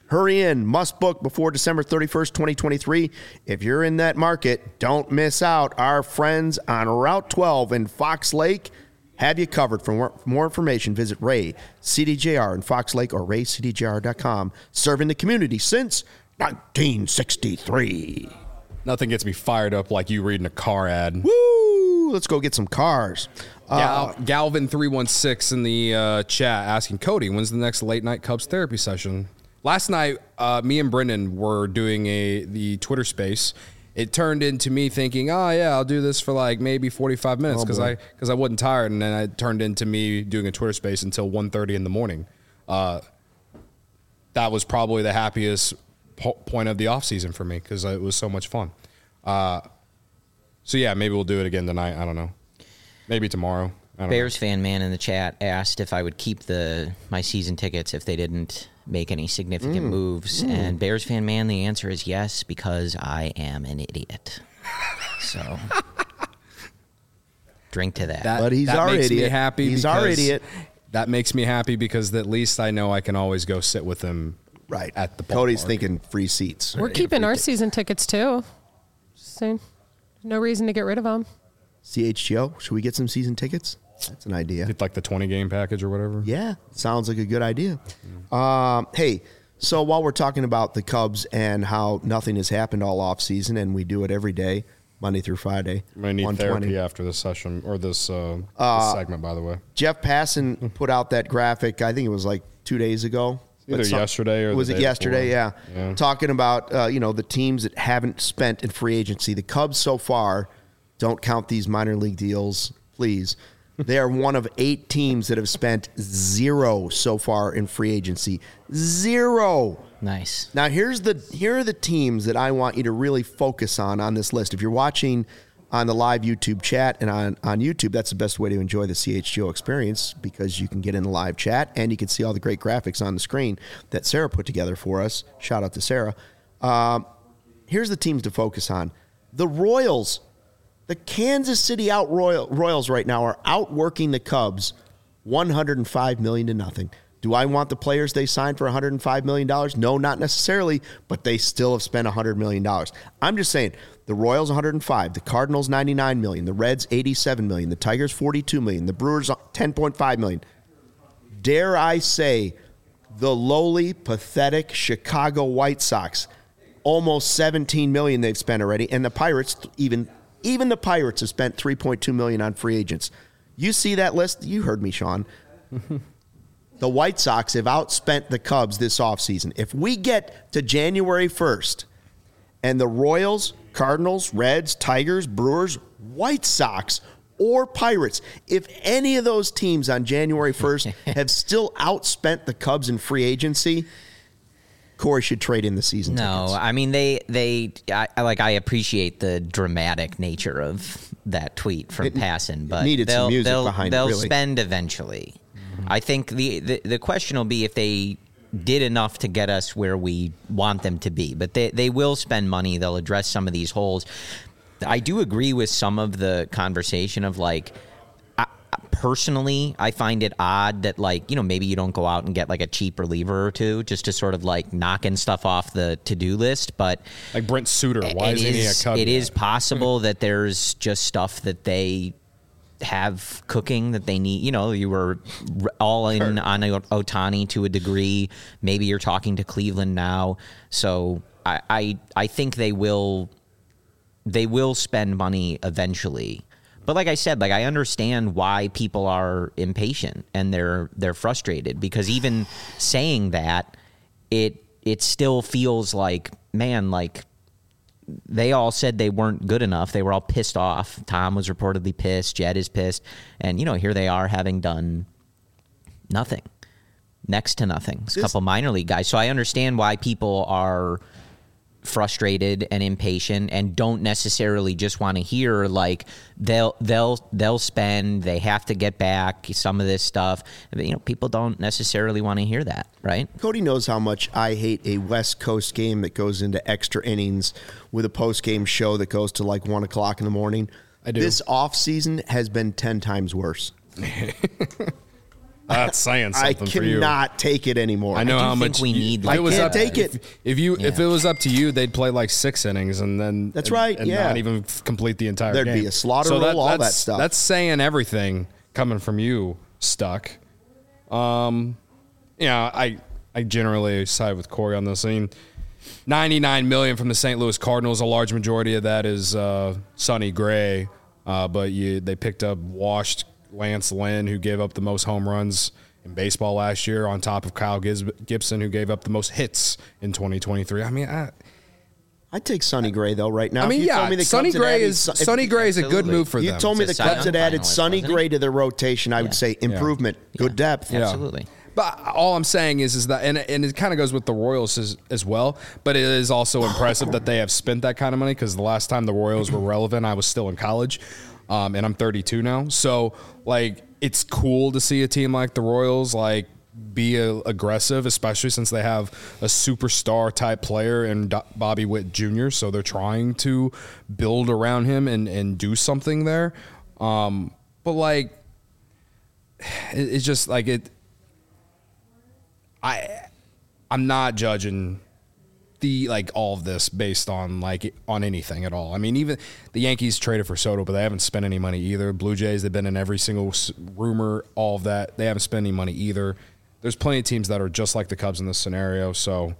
Hurry in. Must book before December thirty-first, twenty twenty-three. If you're in that market, don't miss out. Our friends on Route twelve in Fox Lake have you covered. For more, for more information, visit Ray C D J R in Fox Lake or ray c d j r dot com. Serving the community since nineteen sixty-three. Nothing gets me fired up like you reading a car ad. Woo! Let's go get some cars. Gal- Galvin three one six in the uh, chat asking, Cody, when's the next late night Cubs therapy session? Last night, uh, me and Brendan were doing a the Twitter space. It turned into me thinking, oh, yeah, I'll do this for like maybe forty-five minutes because oh, I because I wasn't tired. And then it turned into me doing a Twitter space until one thirty in the morning. Uh, that was probably the happiest po- point of the offseason for me because it was so much fun. Uh, so, yeah, maybe we'll do it again tonight. I don't know. Maybe tomorrow. I don't Bears know. fan man in the chat asked if I would keep the my season tickets if they didn't make any significant Mm. moves. Mm. And Bears fan man, the answer is yes, because I am an idiot. So drink to that. That, But he's that our makes idiot. me happy. He's our because- idiot. That makes me happy because at least I know I can always go sit with him Right. at the Cody's ballpark. thinking free seats. We're keeping our season tickets too. Just saying. No reason to get rid of them. C H G O, should we get some season tickets? That's an idea. It's like the twenty game package or whatever. Yeah, sounds like a good idea. Um, hey, so while we're talking about the Cubs and how nothing has happened all offseason, and we do it every day, Monday through Friday, I'm gonna need one twenty. therapy after this session or this, uh, Uh, this segment, by the way. Jeff Passan put out that graphic, I think it was like two days ago. Either But some- yesterday or the was it day yesterday? Yeah. before. Yeah. Talking about uh, you know the teams that haven't spent in free agency. The Cubs so far, don't count these minor league deals, please. They are one of eight teams that have spent zero so far in free agency. Zero. Nice. Now here's the here are the teams that I want you to really focus on on this list. If you're watching on the live YouTube chat and on, on YouTube, that's the best way to enjoy the C H G O experience because you can get in the live chat and you can see all the great graphics on the screen that Sarah put together for us. Shout out to Sarah. Um, here's the teams to focus on. The Royals, the Kansas City out Royal, Royals right now are outworking the Cubs one hundred five million dollars to nothing. Do I want the players they signed for one hundred five million dollars? No, not necessarily, but they still have spent one hundred million dollars. I'm just saying, the Royals one hundred five, the Cardinals ninety-nine million dollars, the Reds eighty-seven million dollars, the Tigers forty-two million dollars, the Brewers ten point five million dollars. Dare I say, the lowly, pathetic Chicago White Sox, almost seventeen million dollars they've spent already, and the Pirates, even even the Pirates have spent three point two million dollars on free agents. You see that list? You heard me, Sean. The White Sox have outspent the Cubs this offseason. If we get to January first and the Royals, Cardinals, Reds, Tigers, Brewers, White Sox, or Pirates, if any of those teams on January first have still outspent the Cubs in free agency, Corey should trade in the season No, tickets. I mean they they I, I like I appreciate the dramatic nature of that tweet from It Passan, but needed some they'll, music they'll, behind it, they'll really. spend eventually. I think the, the the question will be if they did enough to get us where we want them to be, but they they will spend money. They'll address some of these holes. I do agree with some of the conversation of like. Personally, I find it odd that, like, you know, maybe you don't go out and get like a cheap reliever or two just to sort of like knocking stuff off the to-do list. But Like Brent Suter. Why it isn't he a is, Cub it yet? is possible that there's just stuff that they have cooking that they need. You know, you were r- all in Sure. on Ohtani to a degree. Maybe you're talking to Cleveland now. So I, I, I think they will they will spend money eventually. But like I said, like I understand why people are impatient and they're they're frustrated because even saying that, it it still feels like, man, like they all said they weren't good enough. They were all pissed off. Tom was reportedly pissed. Jed is pissed. And, you know, here they are having done nothing, next to nothing. It's a This- couple minor league guys. So I understand why people are frustrated and impatient and don't necessarily just want to hear like they'll they'll they'll spend, they have to get back some of this stuff. You know, people don't necessarily want to hear that, right? Cody knows how much I hate a West Coast game that goes into extra innings with a post-game show that goes to like one o'clock in the morning. I do. This offseason has been ten times worse. That's saying I something for you. cannot take it anymore. I know I do how think much we you- need, if like, it was I up, can't take if, it. If you if Yeah. it was up to you, they'd play like six innings and then That's and- right, and yeah. not even f- complete the entire There'd game. be a slaughter so roll, all that that's- stuff. That's saying everything coming from you, Stuck. Um, yeah, I I generally side with Corey on this thing. ninety-nine million from the Saint Louis Cardinals. A large majority of that is uh, Sonny Gray, uh, but you they picked up washed Lance Lynn, who gave up the most home runs in baseball last year, on top of Kyle Gis- Gibson, who gave up the most hits in twenty twenty-three. I mean, I, I'd take Sonny Gray though right now. I mean, If you told yeah, me the Sonny Cubs had Gray added is Son- if- Sonny Gray is a good Absolutely. move for You them. told me the It's a Cubs Cy had Young added finalist, Sonny wasn't Gray he? to their rotation. I would say improvement, good depth. Yeah. Absolutely. But all I'm saying is, is that, and, and it kind of goes with the Royals as, as well. But it is also impressive that they have spent that kind of money, because the last time the Royals were relevant, I was still in college, um, and I'm thirty-two now. So like, it's cool to see a team like the Royals like be a, aggressive, especially since they have a superstar type player in Do- Bobby Witt Junior So they're trying to build around him and and do something there. Um, but like, it, it's just like it. I I'm not judging the like all of this based on like on anything at all. I mean, even the Yankees traded for Soto, but they haven't spent any money either. Blue Jays, they've been in every single s- rumor, all of that. They haven't spent any money either. There's plenty of teams that are just like the Cubs in this scenario. So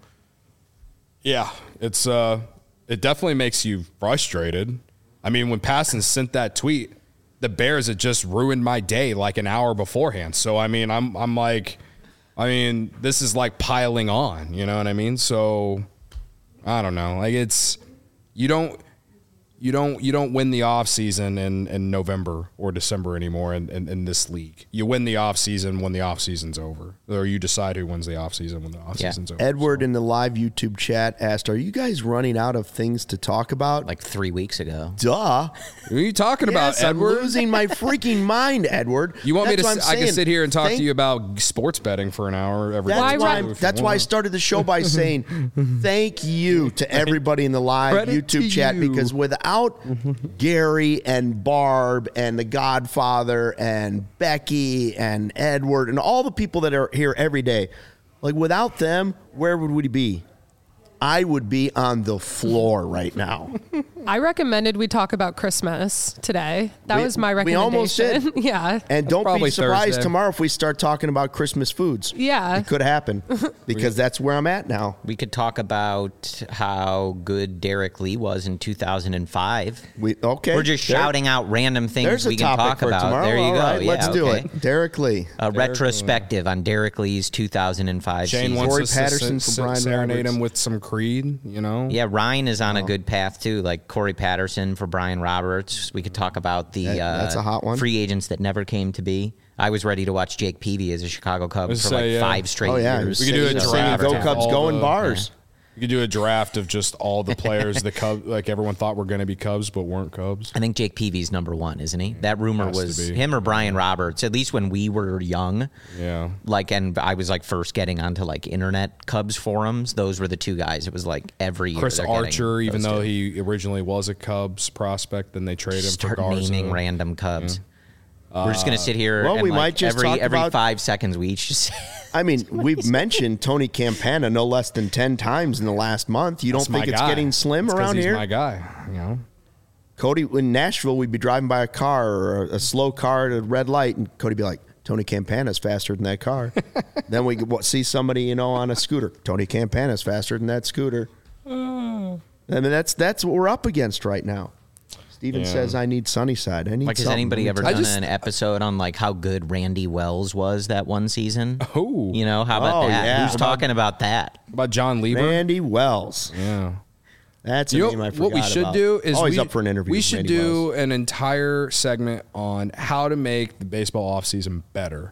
yeah, it's uh it definitely makes you frustrated. I mean, when Passan sent that tweet, the Bears had just ruined my day like an hour beforehand. So I mean, I'm I'm like I mean, this is like piling on, you know what I mean? So I don't know. Like it's you don't you don't you don't win the offseason in, in November or December anymore in, in, in this league. You win the offseason when the offseason's over. Or you decide who wins the offseason when the offseason's over. Edward in the live YouTube chat asked, "Are you guys running out of things to talk about?" Like three weeks ago. Duh. Who are you talking about, Yes, I'm Edward? losing my freaking mind, Edward. You want That's me what to? I'm I can saying. sit here and talk Thank- to you about sports betting for an hour every That's day. why, Why I'm- if you that's why I want. started the show by saying thank you to everybody in the live Credit to YouTube chat, you. because without Gary and Barb and the Godfather and Becky and Edward and all the people that are here every day, like without them, where would we be? I would be on the floor right now. I recommended we talk about Christmas today. That We- was my we recommendation. almost did. yeah. And don't be Probably surprised Thursday. tomorrow if we start talking about Christmas foods. Yeah. It could happen because that's where I'm at now. We could talk about how good Derek Lee was in two thousand five. We okay. We're just There- shouting out random things There's a we can topic talk for about. tomorrow. There you All go. right, Yeah, let's do okay. it. Derek Lee. A retrospective on Derek Lee's two thousand five Shane season. wants Corey us Patterson to for se- Brian serenade Roberts. him with some Creed, you know? Yeah, Ryan is on Oh. a good path too, like Corey Patterson for Brian Roberts. We could talk about the That- uh, that's a hot one. free agents that never came to be. I was ready to watch Jake Peavy as a Chicago Cub for Let's like say, yeah. five straight Oh yeah, years. We could do a Singing draft Go of Cubs, all go in the- bars. You could do a draft of just all the players the Cubs, like everyone thought were going to be Cubs, but weren't Cubs. I think Jake Peavy's number one, isn't he? That rumor Has to was be. him or Brian Roberts, at least when we were young. Yeah. Like, and I was like first getting onto like internet Cubs forums. Those were the two guys. It was like every year. Chris they're getting Archer, even those though two. he originally was a Cubs prospect, then they traded him Start for Garza. naming random Cubs. We're just gonna sit here. Well, and we like might just every talk every about- five seconds we each just. I mean, we've mentioned Tony Campana no less than ten times in the last month. You don't That's my think it's guy. getting slim It's 'cause around he's here? my guy, you know? Cody, in Nashville, we'd be driving by a car or a, a slow car at a red light, and Cody'd be like, Tony Campana's faster than that car. Then we could, what, see somebody, you know, on a scooter. Tony Campana's faster than that scooter. I mean, that's that's what we're up against right now. Steven Yeah. says, I need Sunnyside. I need Like, has something. anybody ever I done just- an episode on like how good Randy Wells was that one season? Oh. You know, how about Oh, that? yeah. Who's About- talking about that? About John Lieber? Randy Wells. Yeah. That's a You know, name I forgot what we should about. do is Always we, up for an interview. We with should Randy do Wells. an entire segment on how to make the baseball offseason better.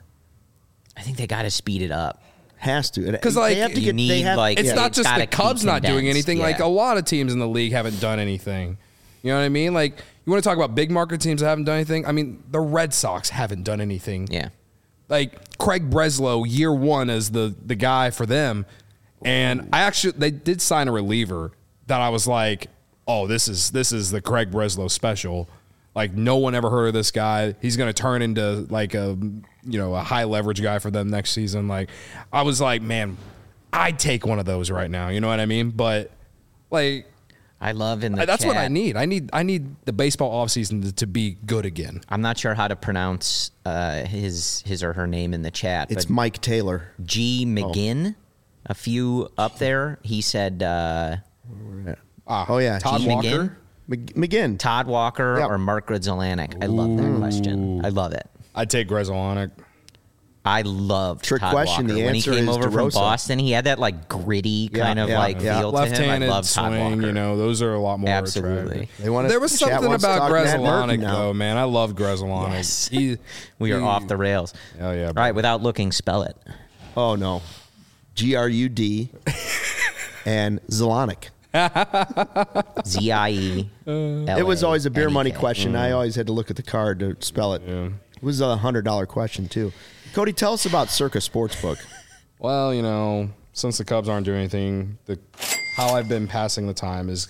I think they got to speed it up. Has to. 'Cause, like, they have to you get, need, they have, like- It's Yeah, not it's just gotta the Cubs be not doing condensed, anything. Like yeah. a lot of teams in the league haven't done anything. You know what I mean? Like you want to talk about big market teams that haven't done anything? I mean, the Red Sox haven't done anything. Yeah. Like Craig Breslow, year one as the the guy for them, and I actually they did sign a reliever that I was like, oh, this is this is the Craig Breslow special. Like, no one ever heard of this guy. He's going to turn into like a, you know, a high leverage guy for them next season. Like, I was like, man, I'd take one of those right now. You know what I mean? But like, I love in the that's chat, what I need. I need I need the baseball offseason to, to be good again. I'm not sure how to pronounce uh, his his or her name in the chat. It's but Mike Taylor. G McGinn, oh. a few up there. He said, uh, ah, "Oh yeah, Todd G. Walker, McGinn, Todd Walker, yep. or Mark Grudzielanek." I love that question. I love it. I'd take Grudzielanek. I loved Trick Todd question. Walker. The when he answer came is over DeRosa. from Boston, he had that like gritty Yeah, kind of yeah, like yeah. feel to him. I Left-handed love Todd swing, Walker. you know, those are a lot more Absolutely. attractive. They wanna, There was chat something wants to about talk Matt Murphy Grudzielanek, now. though, man. I love Grudzielanek. Yes. He, We are he- off the rails. Oh, yeah. All right, without looking, spell it. Oh no, G R U D and Zelonic. Z I E. It was always a beer money L A N E K. question. I always had to look at the card to spell it. Yeah. It was a hundred dollar question too. Cody, tell us about Circa Sportsbook. Well, you know, since the Cubs aren't doing anything, the how I've been passing the time is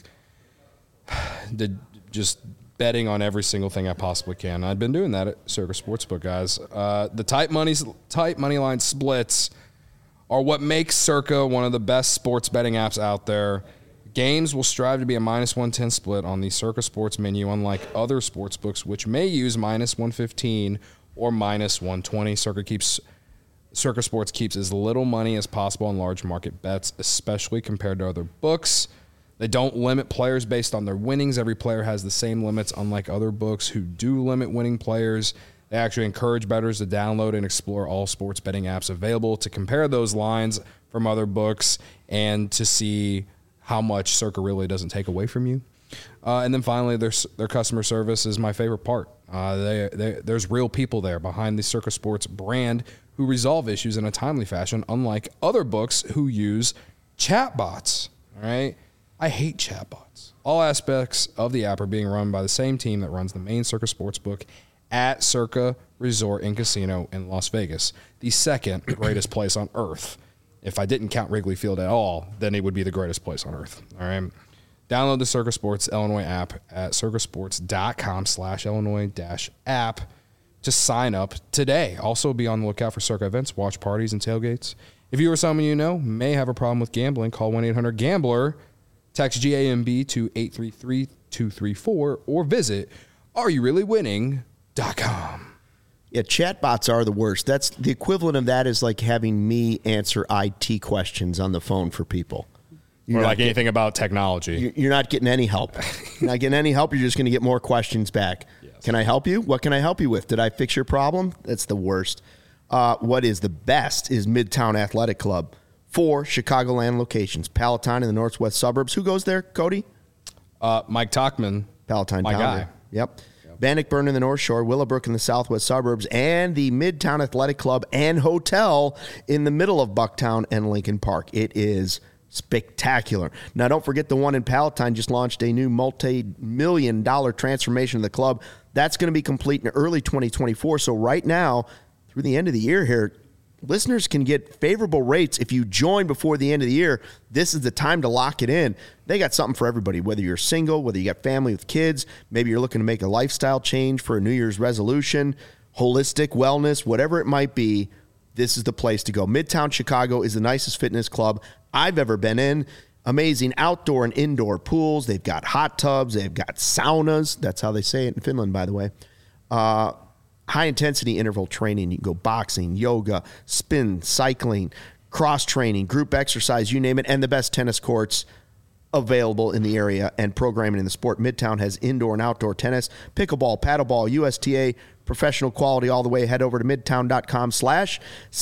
the, just betting on every single thing I possibly can. I've been doing that at Circa Sportsbook, guys. Uh, the tight money, tight money line splits are what makes Circa one of the best sports betting apps out there. Games will strive to be a minus one ten split on the Circa Sports menu, unlike other sports books, which may use minus one fifteen or minus one twenty. Circa keeps Circa Sports keeps as little money as possible on large market bets, especially compared to other books. They don't limit players based on their winnings. Every player has the same limits, unlike other books who do limit winning players. They actually encourage bettors to download and explore all sports betting apps available to compare those lines from other books and to see how much Circa really doesn't take away from you. Uh, and then finally, their their customer service is my favorite part. Uh, they, they, there's real people there behind the Circa Sports brand who resolve issues in a timely fashion, unlike other books who use chatbots. All right, I hate chatbots. All aspects of the app are being run by the same team that runs the main Circa Sportsbook at Circa Resort and Casino in Las Vegas, the second greatest place on earth. If I didn't count Wrigley Field at all, then it would be the greatest place on earth. All right. Download the Circa Sports Illinois app at circasports.com slash Illinois dash app to sign up today. Also, be on the lookout for Circa events, watch parties, and tailgates. If you or someone you know may have a problem with gambling, call one eight hundred gambler, text G A M B to eight three three two three four, or visit are you really winning dot com. Yeah, chatbots are the worst. That's the equivalent of that is like having me answer I T questions on the phone for people. You're or not like get- anything about technology. you- You're not getting any help. You're not getting any help. You're just going to get more questions back. Can I help you? What can I help you with? Did I fix your problem? That's the worst. Uh, what is the best is Midtown Athletic Club. Four Chicagoland locations. Palatine in the northwest suburbs. Who goes there, Cody? Uh, Mike Talkman, Palatine my Pounder. guy. Yep. Bannockburn in the North Shore, Willowbrook in the southwest suburbs, and the Midtown Athletic Club and Hotel in the middle of Bucktown and Lincoln Park. It is spectacular. Now, don't forget the one in Palatine just launched a new multi-million dollar transformation of the club. That's going to be complete in early twenty twenty-four. So right now, through the end of the year here, listeners can get favorable rates if you join before the end of the year. This is the time to lock it in. They got something for everybody, whether you're single, whether you got family with kids, maybe you're looking to make a lifestyle change for a New Year's resolution, holistic wellness, whatever it might be. This is the place to go. Midtown Chicago is the nicest fitness club I've ever been in. Amazing outdoor and indoor pools. They've got hot tubs. They've got saunas. That's how they say it in Finland, by the way. Uh, high-intensity interval training. You can go boxing, yoga, spin, cycling, cross-training, group exercise, you name it, and the best tennis courts available in the area and programming in the sport. Midtown has indoor and outdoor tennis, pickleball, paddleball, U S T A, professional quality all the way. Head over to midtown.com slash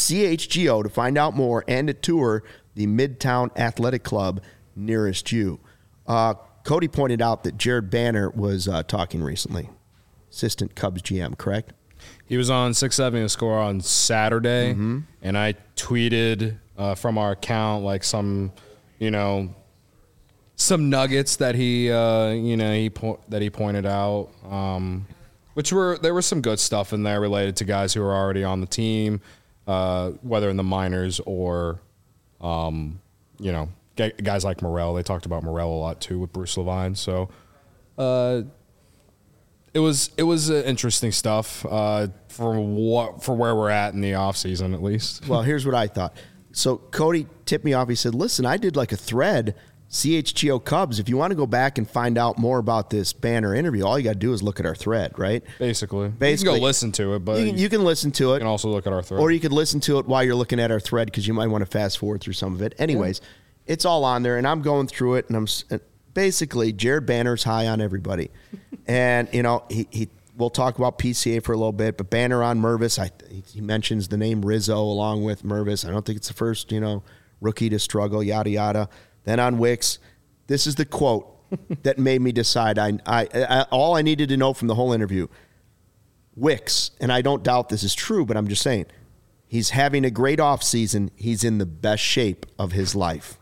CHGO to find out more and to tour the Midtown Athletic Club nearest you. Uh, Cody pointed out that Jared Banner was uh, talking recently. Assistant Cubs G M, correct? He was on six seventy The Score on Saturday, mm-hmm. and I tweeted uh, from our account like some, you know, some nuggets that he, uh, you know, he po- that he pointed out, um, which were there was some good stuff in there related to guys who are already on the team, uh, whether in the minors or, um, you know, g- guys like Morel. They talked about Morel a lot too with Bruce Levine. So, uh, It was it was uh, interesting stuff uh, for what for where we're at in the offseason, at least. Well, here's what I thought. So Cody tipped me off. He said, listen, I did like a thread, C H G O Cubs. If you want to go back and find out more about this Banner interview, all you got to do is look at our thread, right? Basically. Basically. You can go listen to it, but You can, you can listen to it. You can also look at our thread. Or you could listen to it while you're looking at our thread because you might want to fast forward through some of it. Anyways, yeah. It's all on there, and I'm going through it, and I'm and basically Jared Banner's high on everybody. And, you know, he, he we'll talk about P C A for a little bit, but Banner on Mervis, I, he mentions the name Rizzo along with Mervis. I don't think it's the first, you know, rookie to struggle, yada, yada. Then on Wicks, this is the quote that made me decide. I, I, I all I needed to know from the whole interview. Wicks, and I don't doubt this is true, but I'm just saying, he's having a great offseason. He's in the best shape of his life.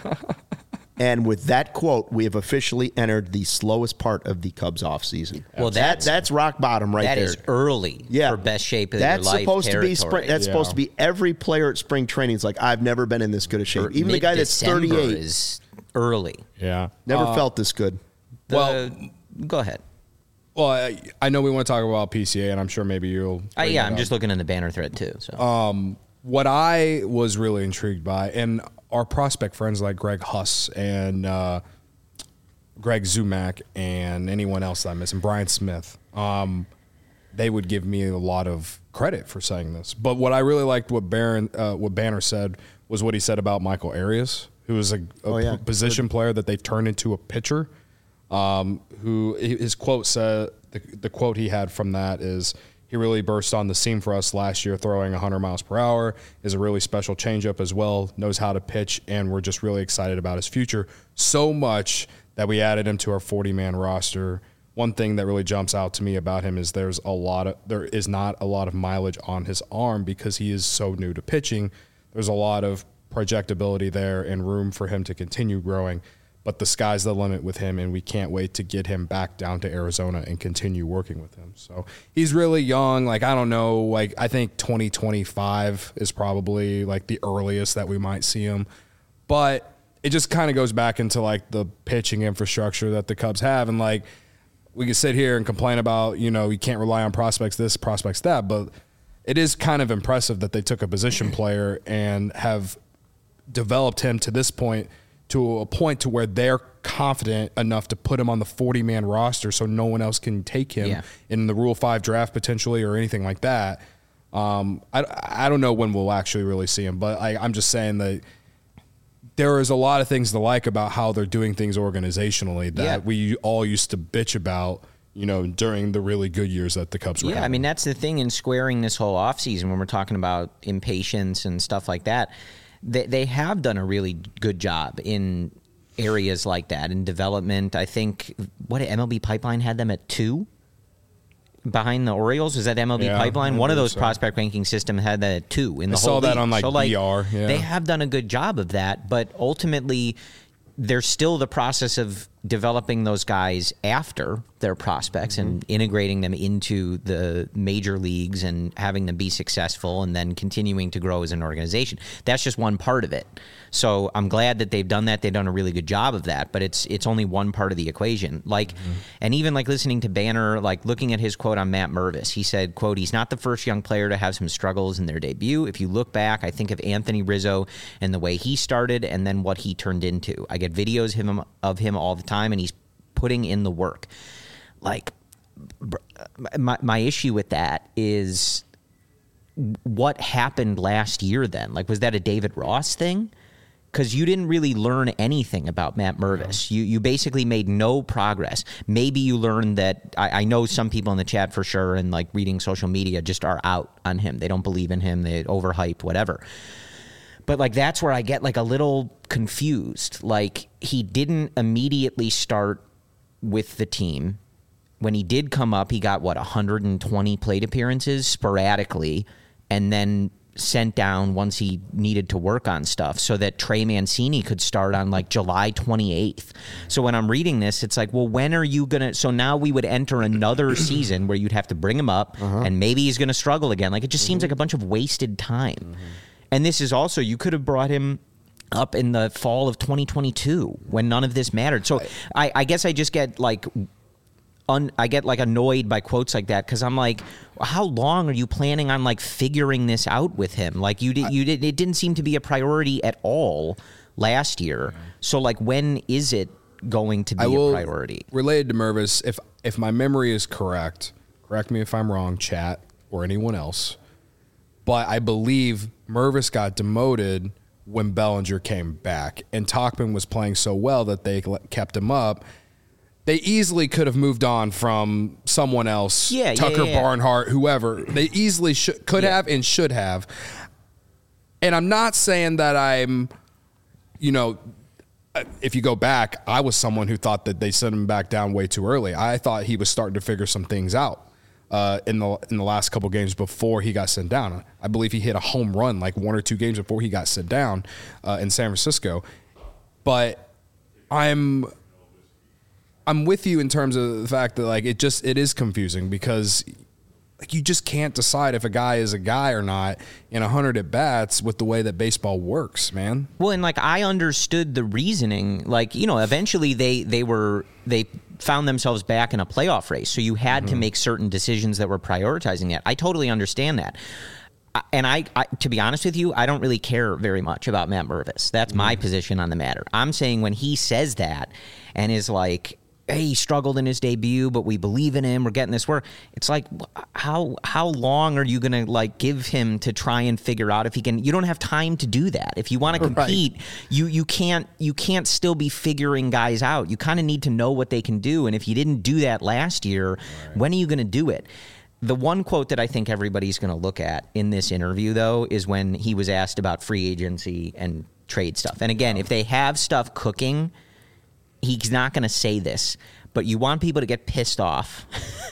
And with that quote, we have officially entered the slowest part of the Cubs offseason. Well, that, that's that's rock bottom right that there. That is early yeah. for best shape of that's your life supposed territory. to be spring, That's yeah. supposed to be every player at spring training is like, I've never been in this good a shape. Even the guy that's thirty-eight is early. Yeah. Never uh, felt this good. The, well, go ahead. Well, I, I know we want to talk about P C A, and I'm sure maybe you'll. Uh, yeah, I'm up. just looking in the Banner thread too. So, um, what I was really intrigued by, and our prospect friends like Greg Huss and uh, Greg Zumack and anyone else that I'm missing, Brian Smith, um, they would give me a lot of credit for saying this. But what I really liked what Baron, uh, what Banner said was what he said about Michael Arias, who is a, a oh, yeah. p- position Good. player that they've turned into a pitcher. Um, who his quote said, the, the quote he had from that is, he really burst on the scene for us last year, throwing one hundred miles per hour, is a really special changeup as well, knows how to pitch, and we're just really excited about his future. So much that we added him to our forty-man roster. One thing that really jumps out to me about him is there's a lot of there is not a lot of mileage on his arm because he is so new to pitching. There's a lot of projectability there and room for him to continue growing. But the sky's the limit with him, and we can't wait to get him back down to Arizona and continue working with him. So he's really young. Like, I don't know. Like, I think twenty twenty-five is probably, like, the earliest that we might see him. But it just kind of goes back into, like, the pitching infrastructure that the Cubs have. And, like, we can sit here and complain about, you know, you can't rely on prospects this, prospects that. But it is kind of impressive that they took a position player and have developed him to this point to a point to where they're confident enough to put him on the forty-man roster so no one else can take him yeah. in the Rule five draft potentially or anything like that. Um, I, I don't know when we'll actually really see him, but I, I'm just saying that there is a lot of things to like about how they're doing things organizationally that yeah. we all used to bitch about, you know, during the really good years that the Cubs were Yeah, having. I mean, that's the thing in squaring this whole offseason when we're talking about impatience and stuff like that. They they have done a really good job in areas like that in development. I think what M L B Pipeline had them at two behind the Orioles. Is that M L B yeah, Pipeline? One of those so. prospect ranking system had that at two in the I whole saw that league. on like, so, like B R. Yeah. They have done a good job of that, but ultimately there's still the process of developing those guys after their prospects mm-hmm. and integrating them into the major leagues and having them be successful and then continuing to grow as an organization. That's just one part of it. So I'm glad that they've done that. They've done a really good job of that, but it's it's only one part of the equation. Like, mm-hmm. and even like listening to Banner, like looking at his quote on Matt Mervis, he said, quote, he's not the first young player to have some struggles in their debut. If you look back, I think of Anthony Rizzo and the way he started and then what he turned into. I get videos of him, of him all the time, and he's putting in the work. Like, my my issue with that is what happened last year then? Like, was that a David Ross thing? Because you didn't really learn anything about Matt Mervis. You you basically made no progress. Maybe you learned that, I, I know some people in the chat for sure and like reading social media just are out on him. They don't believe in him. They overhype, whatever. But like that's where I get like a little confused. Like he didn't immediately start with the team. When he did come up, he got, what, one hundred twenty plate appearances sporadically and then sent down once he needed to work on stuff so that Trey Mancini could start on like July twenty-eighth. So when I'm reading this, it's like, well, when are you going to... So now we would enter another season where you'd have to bring him up uh-huh. and maybe he's going to struggle again. Like it just mm-hmm. seems like a bunch of wasted time. Mm-hmm. And this is also, you could have brought him up in the fall of twenty twenty-two when none of this mattered. So I, I guess I just get like un, I get like annoyed by quotes like that because I'm like, how long are you planning on like figuring this out with him? Like you did, you did. It didn't seem to be a priority at all last year. So like, when is it going to be I will, a priority? Related to Mervis, if if my memory is correct, correct me if I'm wrong, chat or anyone else, but I believe Mervis got demoted when Bellinger came back, and Tauchman was playing so well that they kept him up. They easily could have moved on from someone else, yeah, Tucker yeah, yeah. Barnhart, whoever. They easily should, could yeah. have and should have. And I'm not saying that I'm, you know, if you go back, I was someone who thought that they sent him back down way too early. I thought he was starting to figure some things out uh, in the in the last couple games before he got sent down. I believe he hit a home run like one or two games before he got sent down uh, in San Francisco. But I'm I'm with you in terms of the fact that like it just it is confusing because like you just can't decide if a guy is a guy or not in one hundred at bats with the way that baseball works, man. Well, and like I understood the reasoning. Like, you know, eventually they they were they found themselves back in a playoff race. So you had mm-hmm. to make certain decisions that were prioritizing that. I totally understand that. And I, I, to be honest with you, I don't really care very much about Matt Mervis. That's my mm-hmm. position on the matter. I'm saying when he says that and is like, hey, he struggled in his debut, but we believe in him. We're getting this work. It's like, how how long are you going to like give him to try and figure out if he can? You don't have time to do that. If you want to compete, right. you you can't you can't still be figuring guys out. You kind of need to know what they can do. And if you didn't do that last year, right. when are you going to do it? The one quote that I think everybody's going to look at in this interview, though, is when he was asked about free agency and trade stuff. And again, if they have stuff cooking, he's not going to say this, but you want people to get pissed off.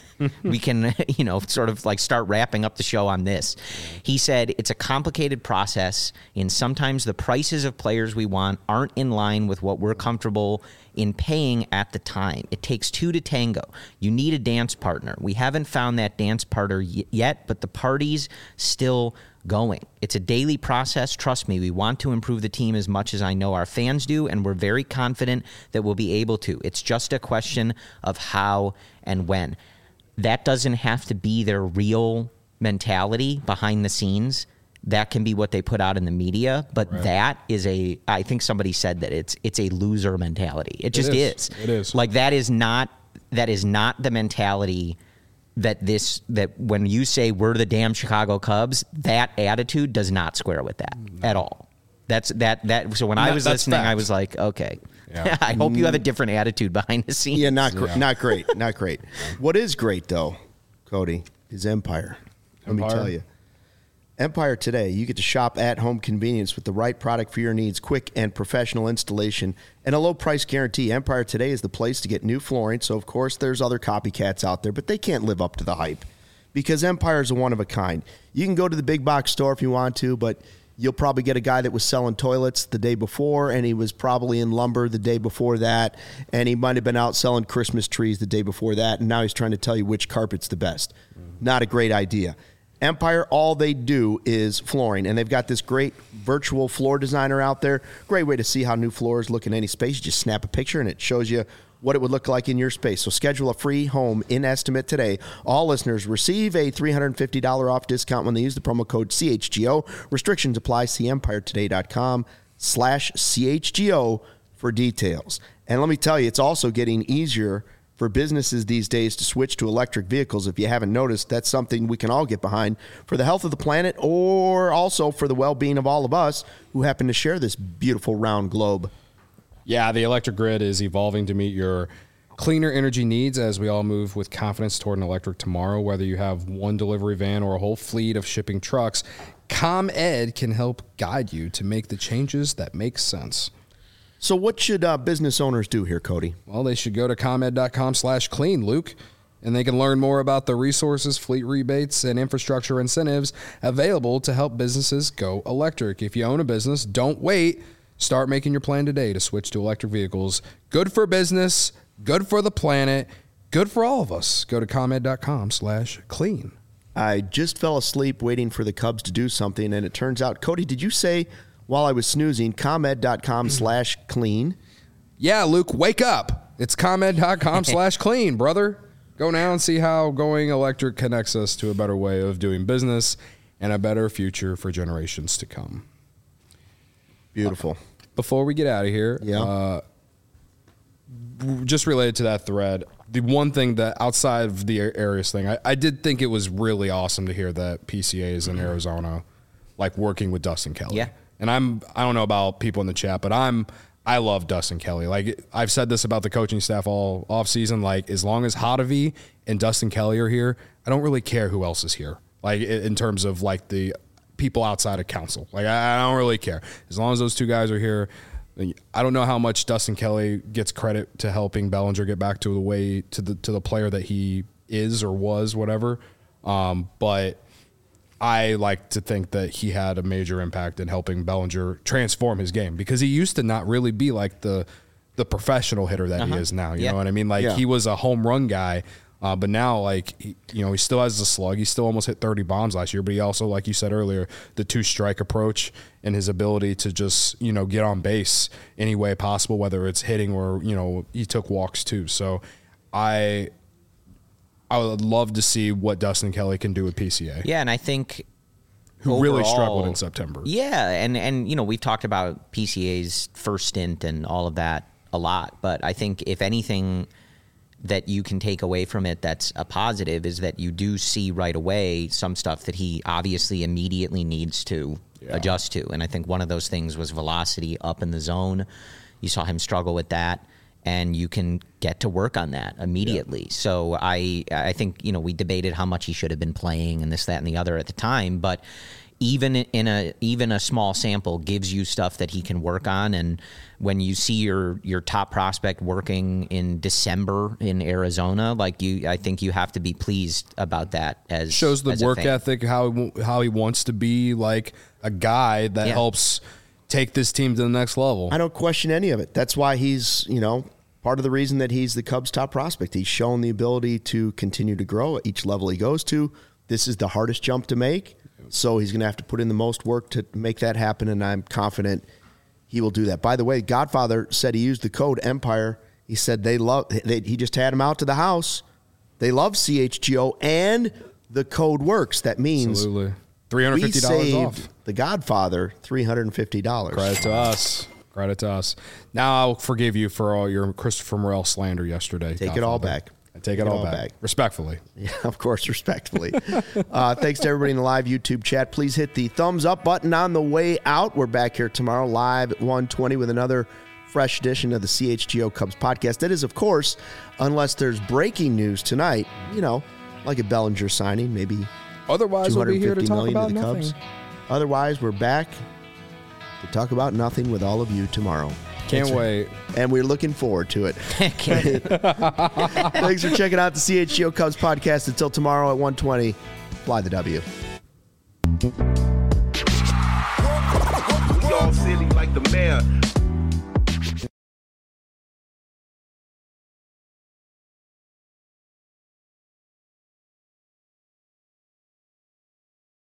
We can, you know, sort of like start wrapping up the show on this. He said it's a complicated process, and sometimes the prices of players we want aren't in line with what we're comfortable in paying at the time. It takes two to tango. You need a dance partner. We haven't found that dance partner y- yet, but the party's still going. It's a daily process. Trust me, we want to improve the team as much as I know our fans do, and we're very confident that we'll be able to. It's just a question of how and when. That doesn't have to be their real mentality behind the scenes. That can be what they put out in the media, but right. that is a, I think somebody said that it's it's a loser mentality. It just it is. is. It is. Like that is not that is not the mentality that this that when you say we're the damn Chicago Cubs, that attitude does not square with that no. at all. That's that that so when that, I was listening, fact. I was like, okay. Yeah. I hope you have a different attitude behind the scenes. Yeah, not gr- yeah. not great, not great. What is great though, Cody, is Empire. Let Empire? me tell you. Empire Today, you get to shop at home convenience with the right product for your needs, quick and professional installation, and a low price guarantee. Empire Today is the place to get new flooring. So, of course, there's other copycats out there, but they can't live up to the hype because Empire is a one of a kind. You can go to the big box store if you want to, but you'll probably get a guy that was selling toilets the day before, and he was probably in lumber the day before that, and he might have been out selling Christmas trees the day before that, and now he's trying to tell you which carpet's the best. Mm-hmm. Not a great idea. Empire, all they do is flooring, and they've got this great virtual floor designer out there. Great way to see how new floors look in any space. You just snap a picture, and it shows you what it would look like in your space. So schedule a free home in estimate today. All listeners receive a three hundred fifty dollars off discount when they use the promo code C H G O. Restrictions apply. See empiretoday.com slash CHGO for details. And let me tell you, it's also getting easier for businesses these days to switch to electric vehicles. If you haven't noticed, that's something we can all get behind for the health of the planet or also for the well-being of all of us who happen to share this beautiful round globe. Yeah, the electric grid is evolving to meet your cleaner energy needs as we all move with confidence toward an electric tomorrow. Whether you have one delivery van or a whole fleet of shipping trucks, ComEd can help guide you to make the changes that make sense. So what should uh, business owners do here, Cody? Well, they should go to ComEd.com slash clean, Luke, and they can learn more about the resources, fleet rebates, and infrastructure incentives available to help businesses go electric. If you own a business, don't wait. Start making your plan today to switch to electric vehicles. Good for business, good for the planet, good for all of us. Go to ComEd.com slash clean. I just fell asleep waiting for the Cubs to do something, and it turns out, Cody, did you say while I was snoozing, ComEd.com slash clean? Yeah, Luke, wake up. It's ComEd.com slash clean, brother. Go now and see how going electric connects us to a better way of doing business and a better future for generations to come. Beautiful. Uh, before we get out of here, yeah. uh, just related to that thread, the one thing that outside of the Arias thing, I, I did think it was really awesome to hear that P C A is in Arizona, like working with Dustin Kelly. Yeah. And I'm, I don't know about people in the chat, but I'm, I love Dustin Kelly. Like I've said this about the coaching staff all off season. Like as long as Hottovy and Dustin Kelly are here, I don't really care who else is here. Like in terms of like the people outside of council, like I, I don't really care as long as those two guys are here. I don't know how much Dustin Kelly gets credit to helping Bellinger get back to the way to the to the player that he is or was, whatever. Um, but I like to think that he had a major impact in helping Bellinger transform his game because he used to not really be like the the professional hitter that uh-huh. he is now. You yeah. know what I mean? Like yeah. he was a home run guy, uh, but now like he, you know he still has the slug. He still almost hit thirty bombs last year, but he also, like you said earlier, the two strike approach and his ability to just you know get on base any way possible, whether it's hitting or you know he took walks too. So I. I would love to see what Dustin Kelly can do with P C A. Yeah, and I think who overall, really struggled in September. Yeah, and and you know we've talked about P C A's first stint and all of that a lot, but I think if anything that you can take away from it that's a positive is that you do see right away some stuff that he obviously immediately needs to yeah. adjust to, and I think one of those things was velocity up in the zone. You saw him struggle with that. And you can get to work on that immediately. Yeah. So I I think, you know, we debated how much he should have been playing and this, that, and the other at the time. But even in a even a small sample gives you stuff that he can work on. And when you see your your top prospect working in December in Arizona, like you, I think you have to be pleased about that. As shows the as work ethic, how how he wants to be like a guy that yeah. helps take this team to the next level. I don't question any of it. That's why he's, you know, part of the reason that he's the Cubs' top prospect. He's shown the ability to continue to grow at each level he goes to. This is the hardest jump to make, so he's going to have to put in the most work to make that happen, and I'm confident he will do that. By the way, Godfather said he used the code Empire. He said they love. They, he just had him out to the house. They love C H G O, and the code works. That means absolutely three hundred fifty dollars we saved off. The Godfather three hundred fifty dollars. Credit to us. Credit to us. Now I'll forgive you for all your Christopher Morel slander yesterday. Take Godfather. it all back. I take, take it all, all back. back. Respectfully. Yeah, of course, respectfully. uh, thanks to everybody in the live YouTube chat. Please hit the thumbs up button on the way out. We're back here tomorrow live at one twenty with another fresh edition of the C H G O Cubs podcast. That is, of course, unless there's breaking news tonight, you know, like a Bellinger signing, maybe otherwise we'll be here to talk about to the nothing. Cubs. Otherwise, we're back to talk about nothing with all of you tomorrow. Can't Thanks wait. For, and we're looking forward to it. Thanks for checking out the C H G O Cubs podcast. Until tomorrow at one twenty, fly the W. Y'all silly like the mayor.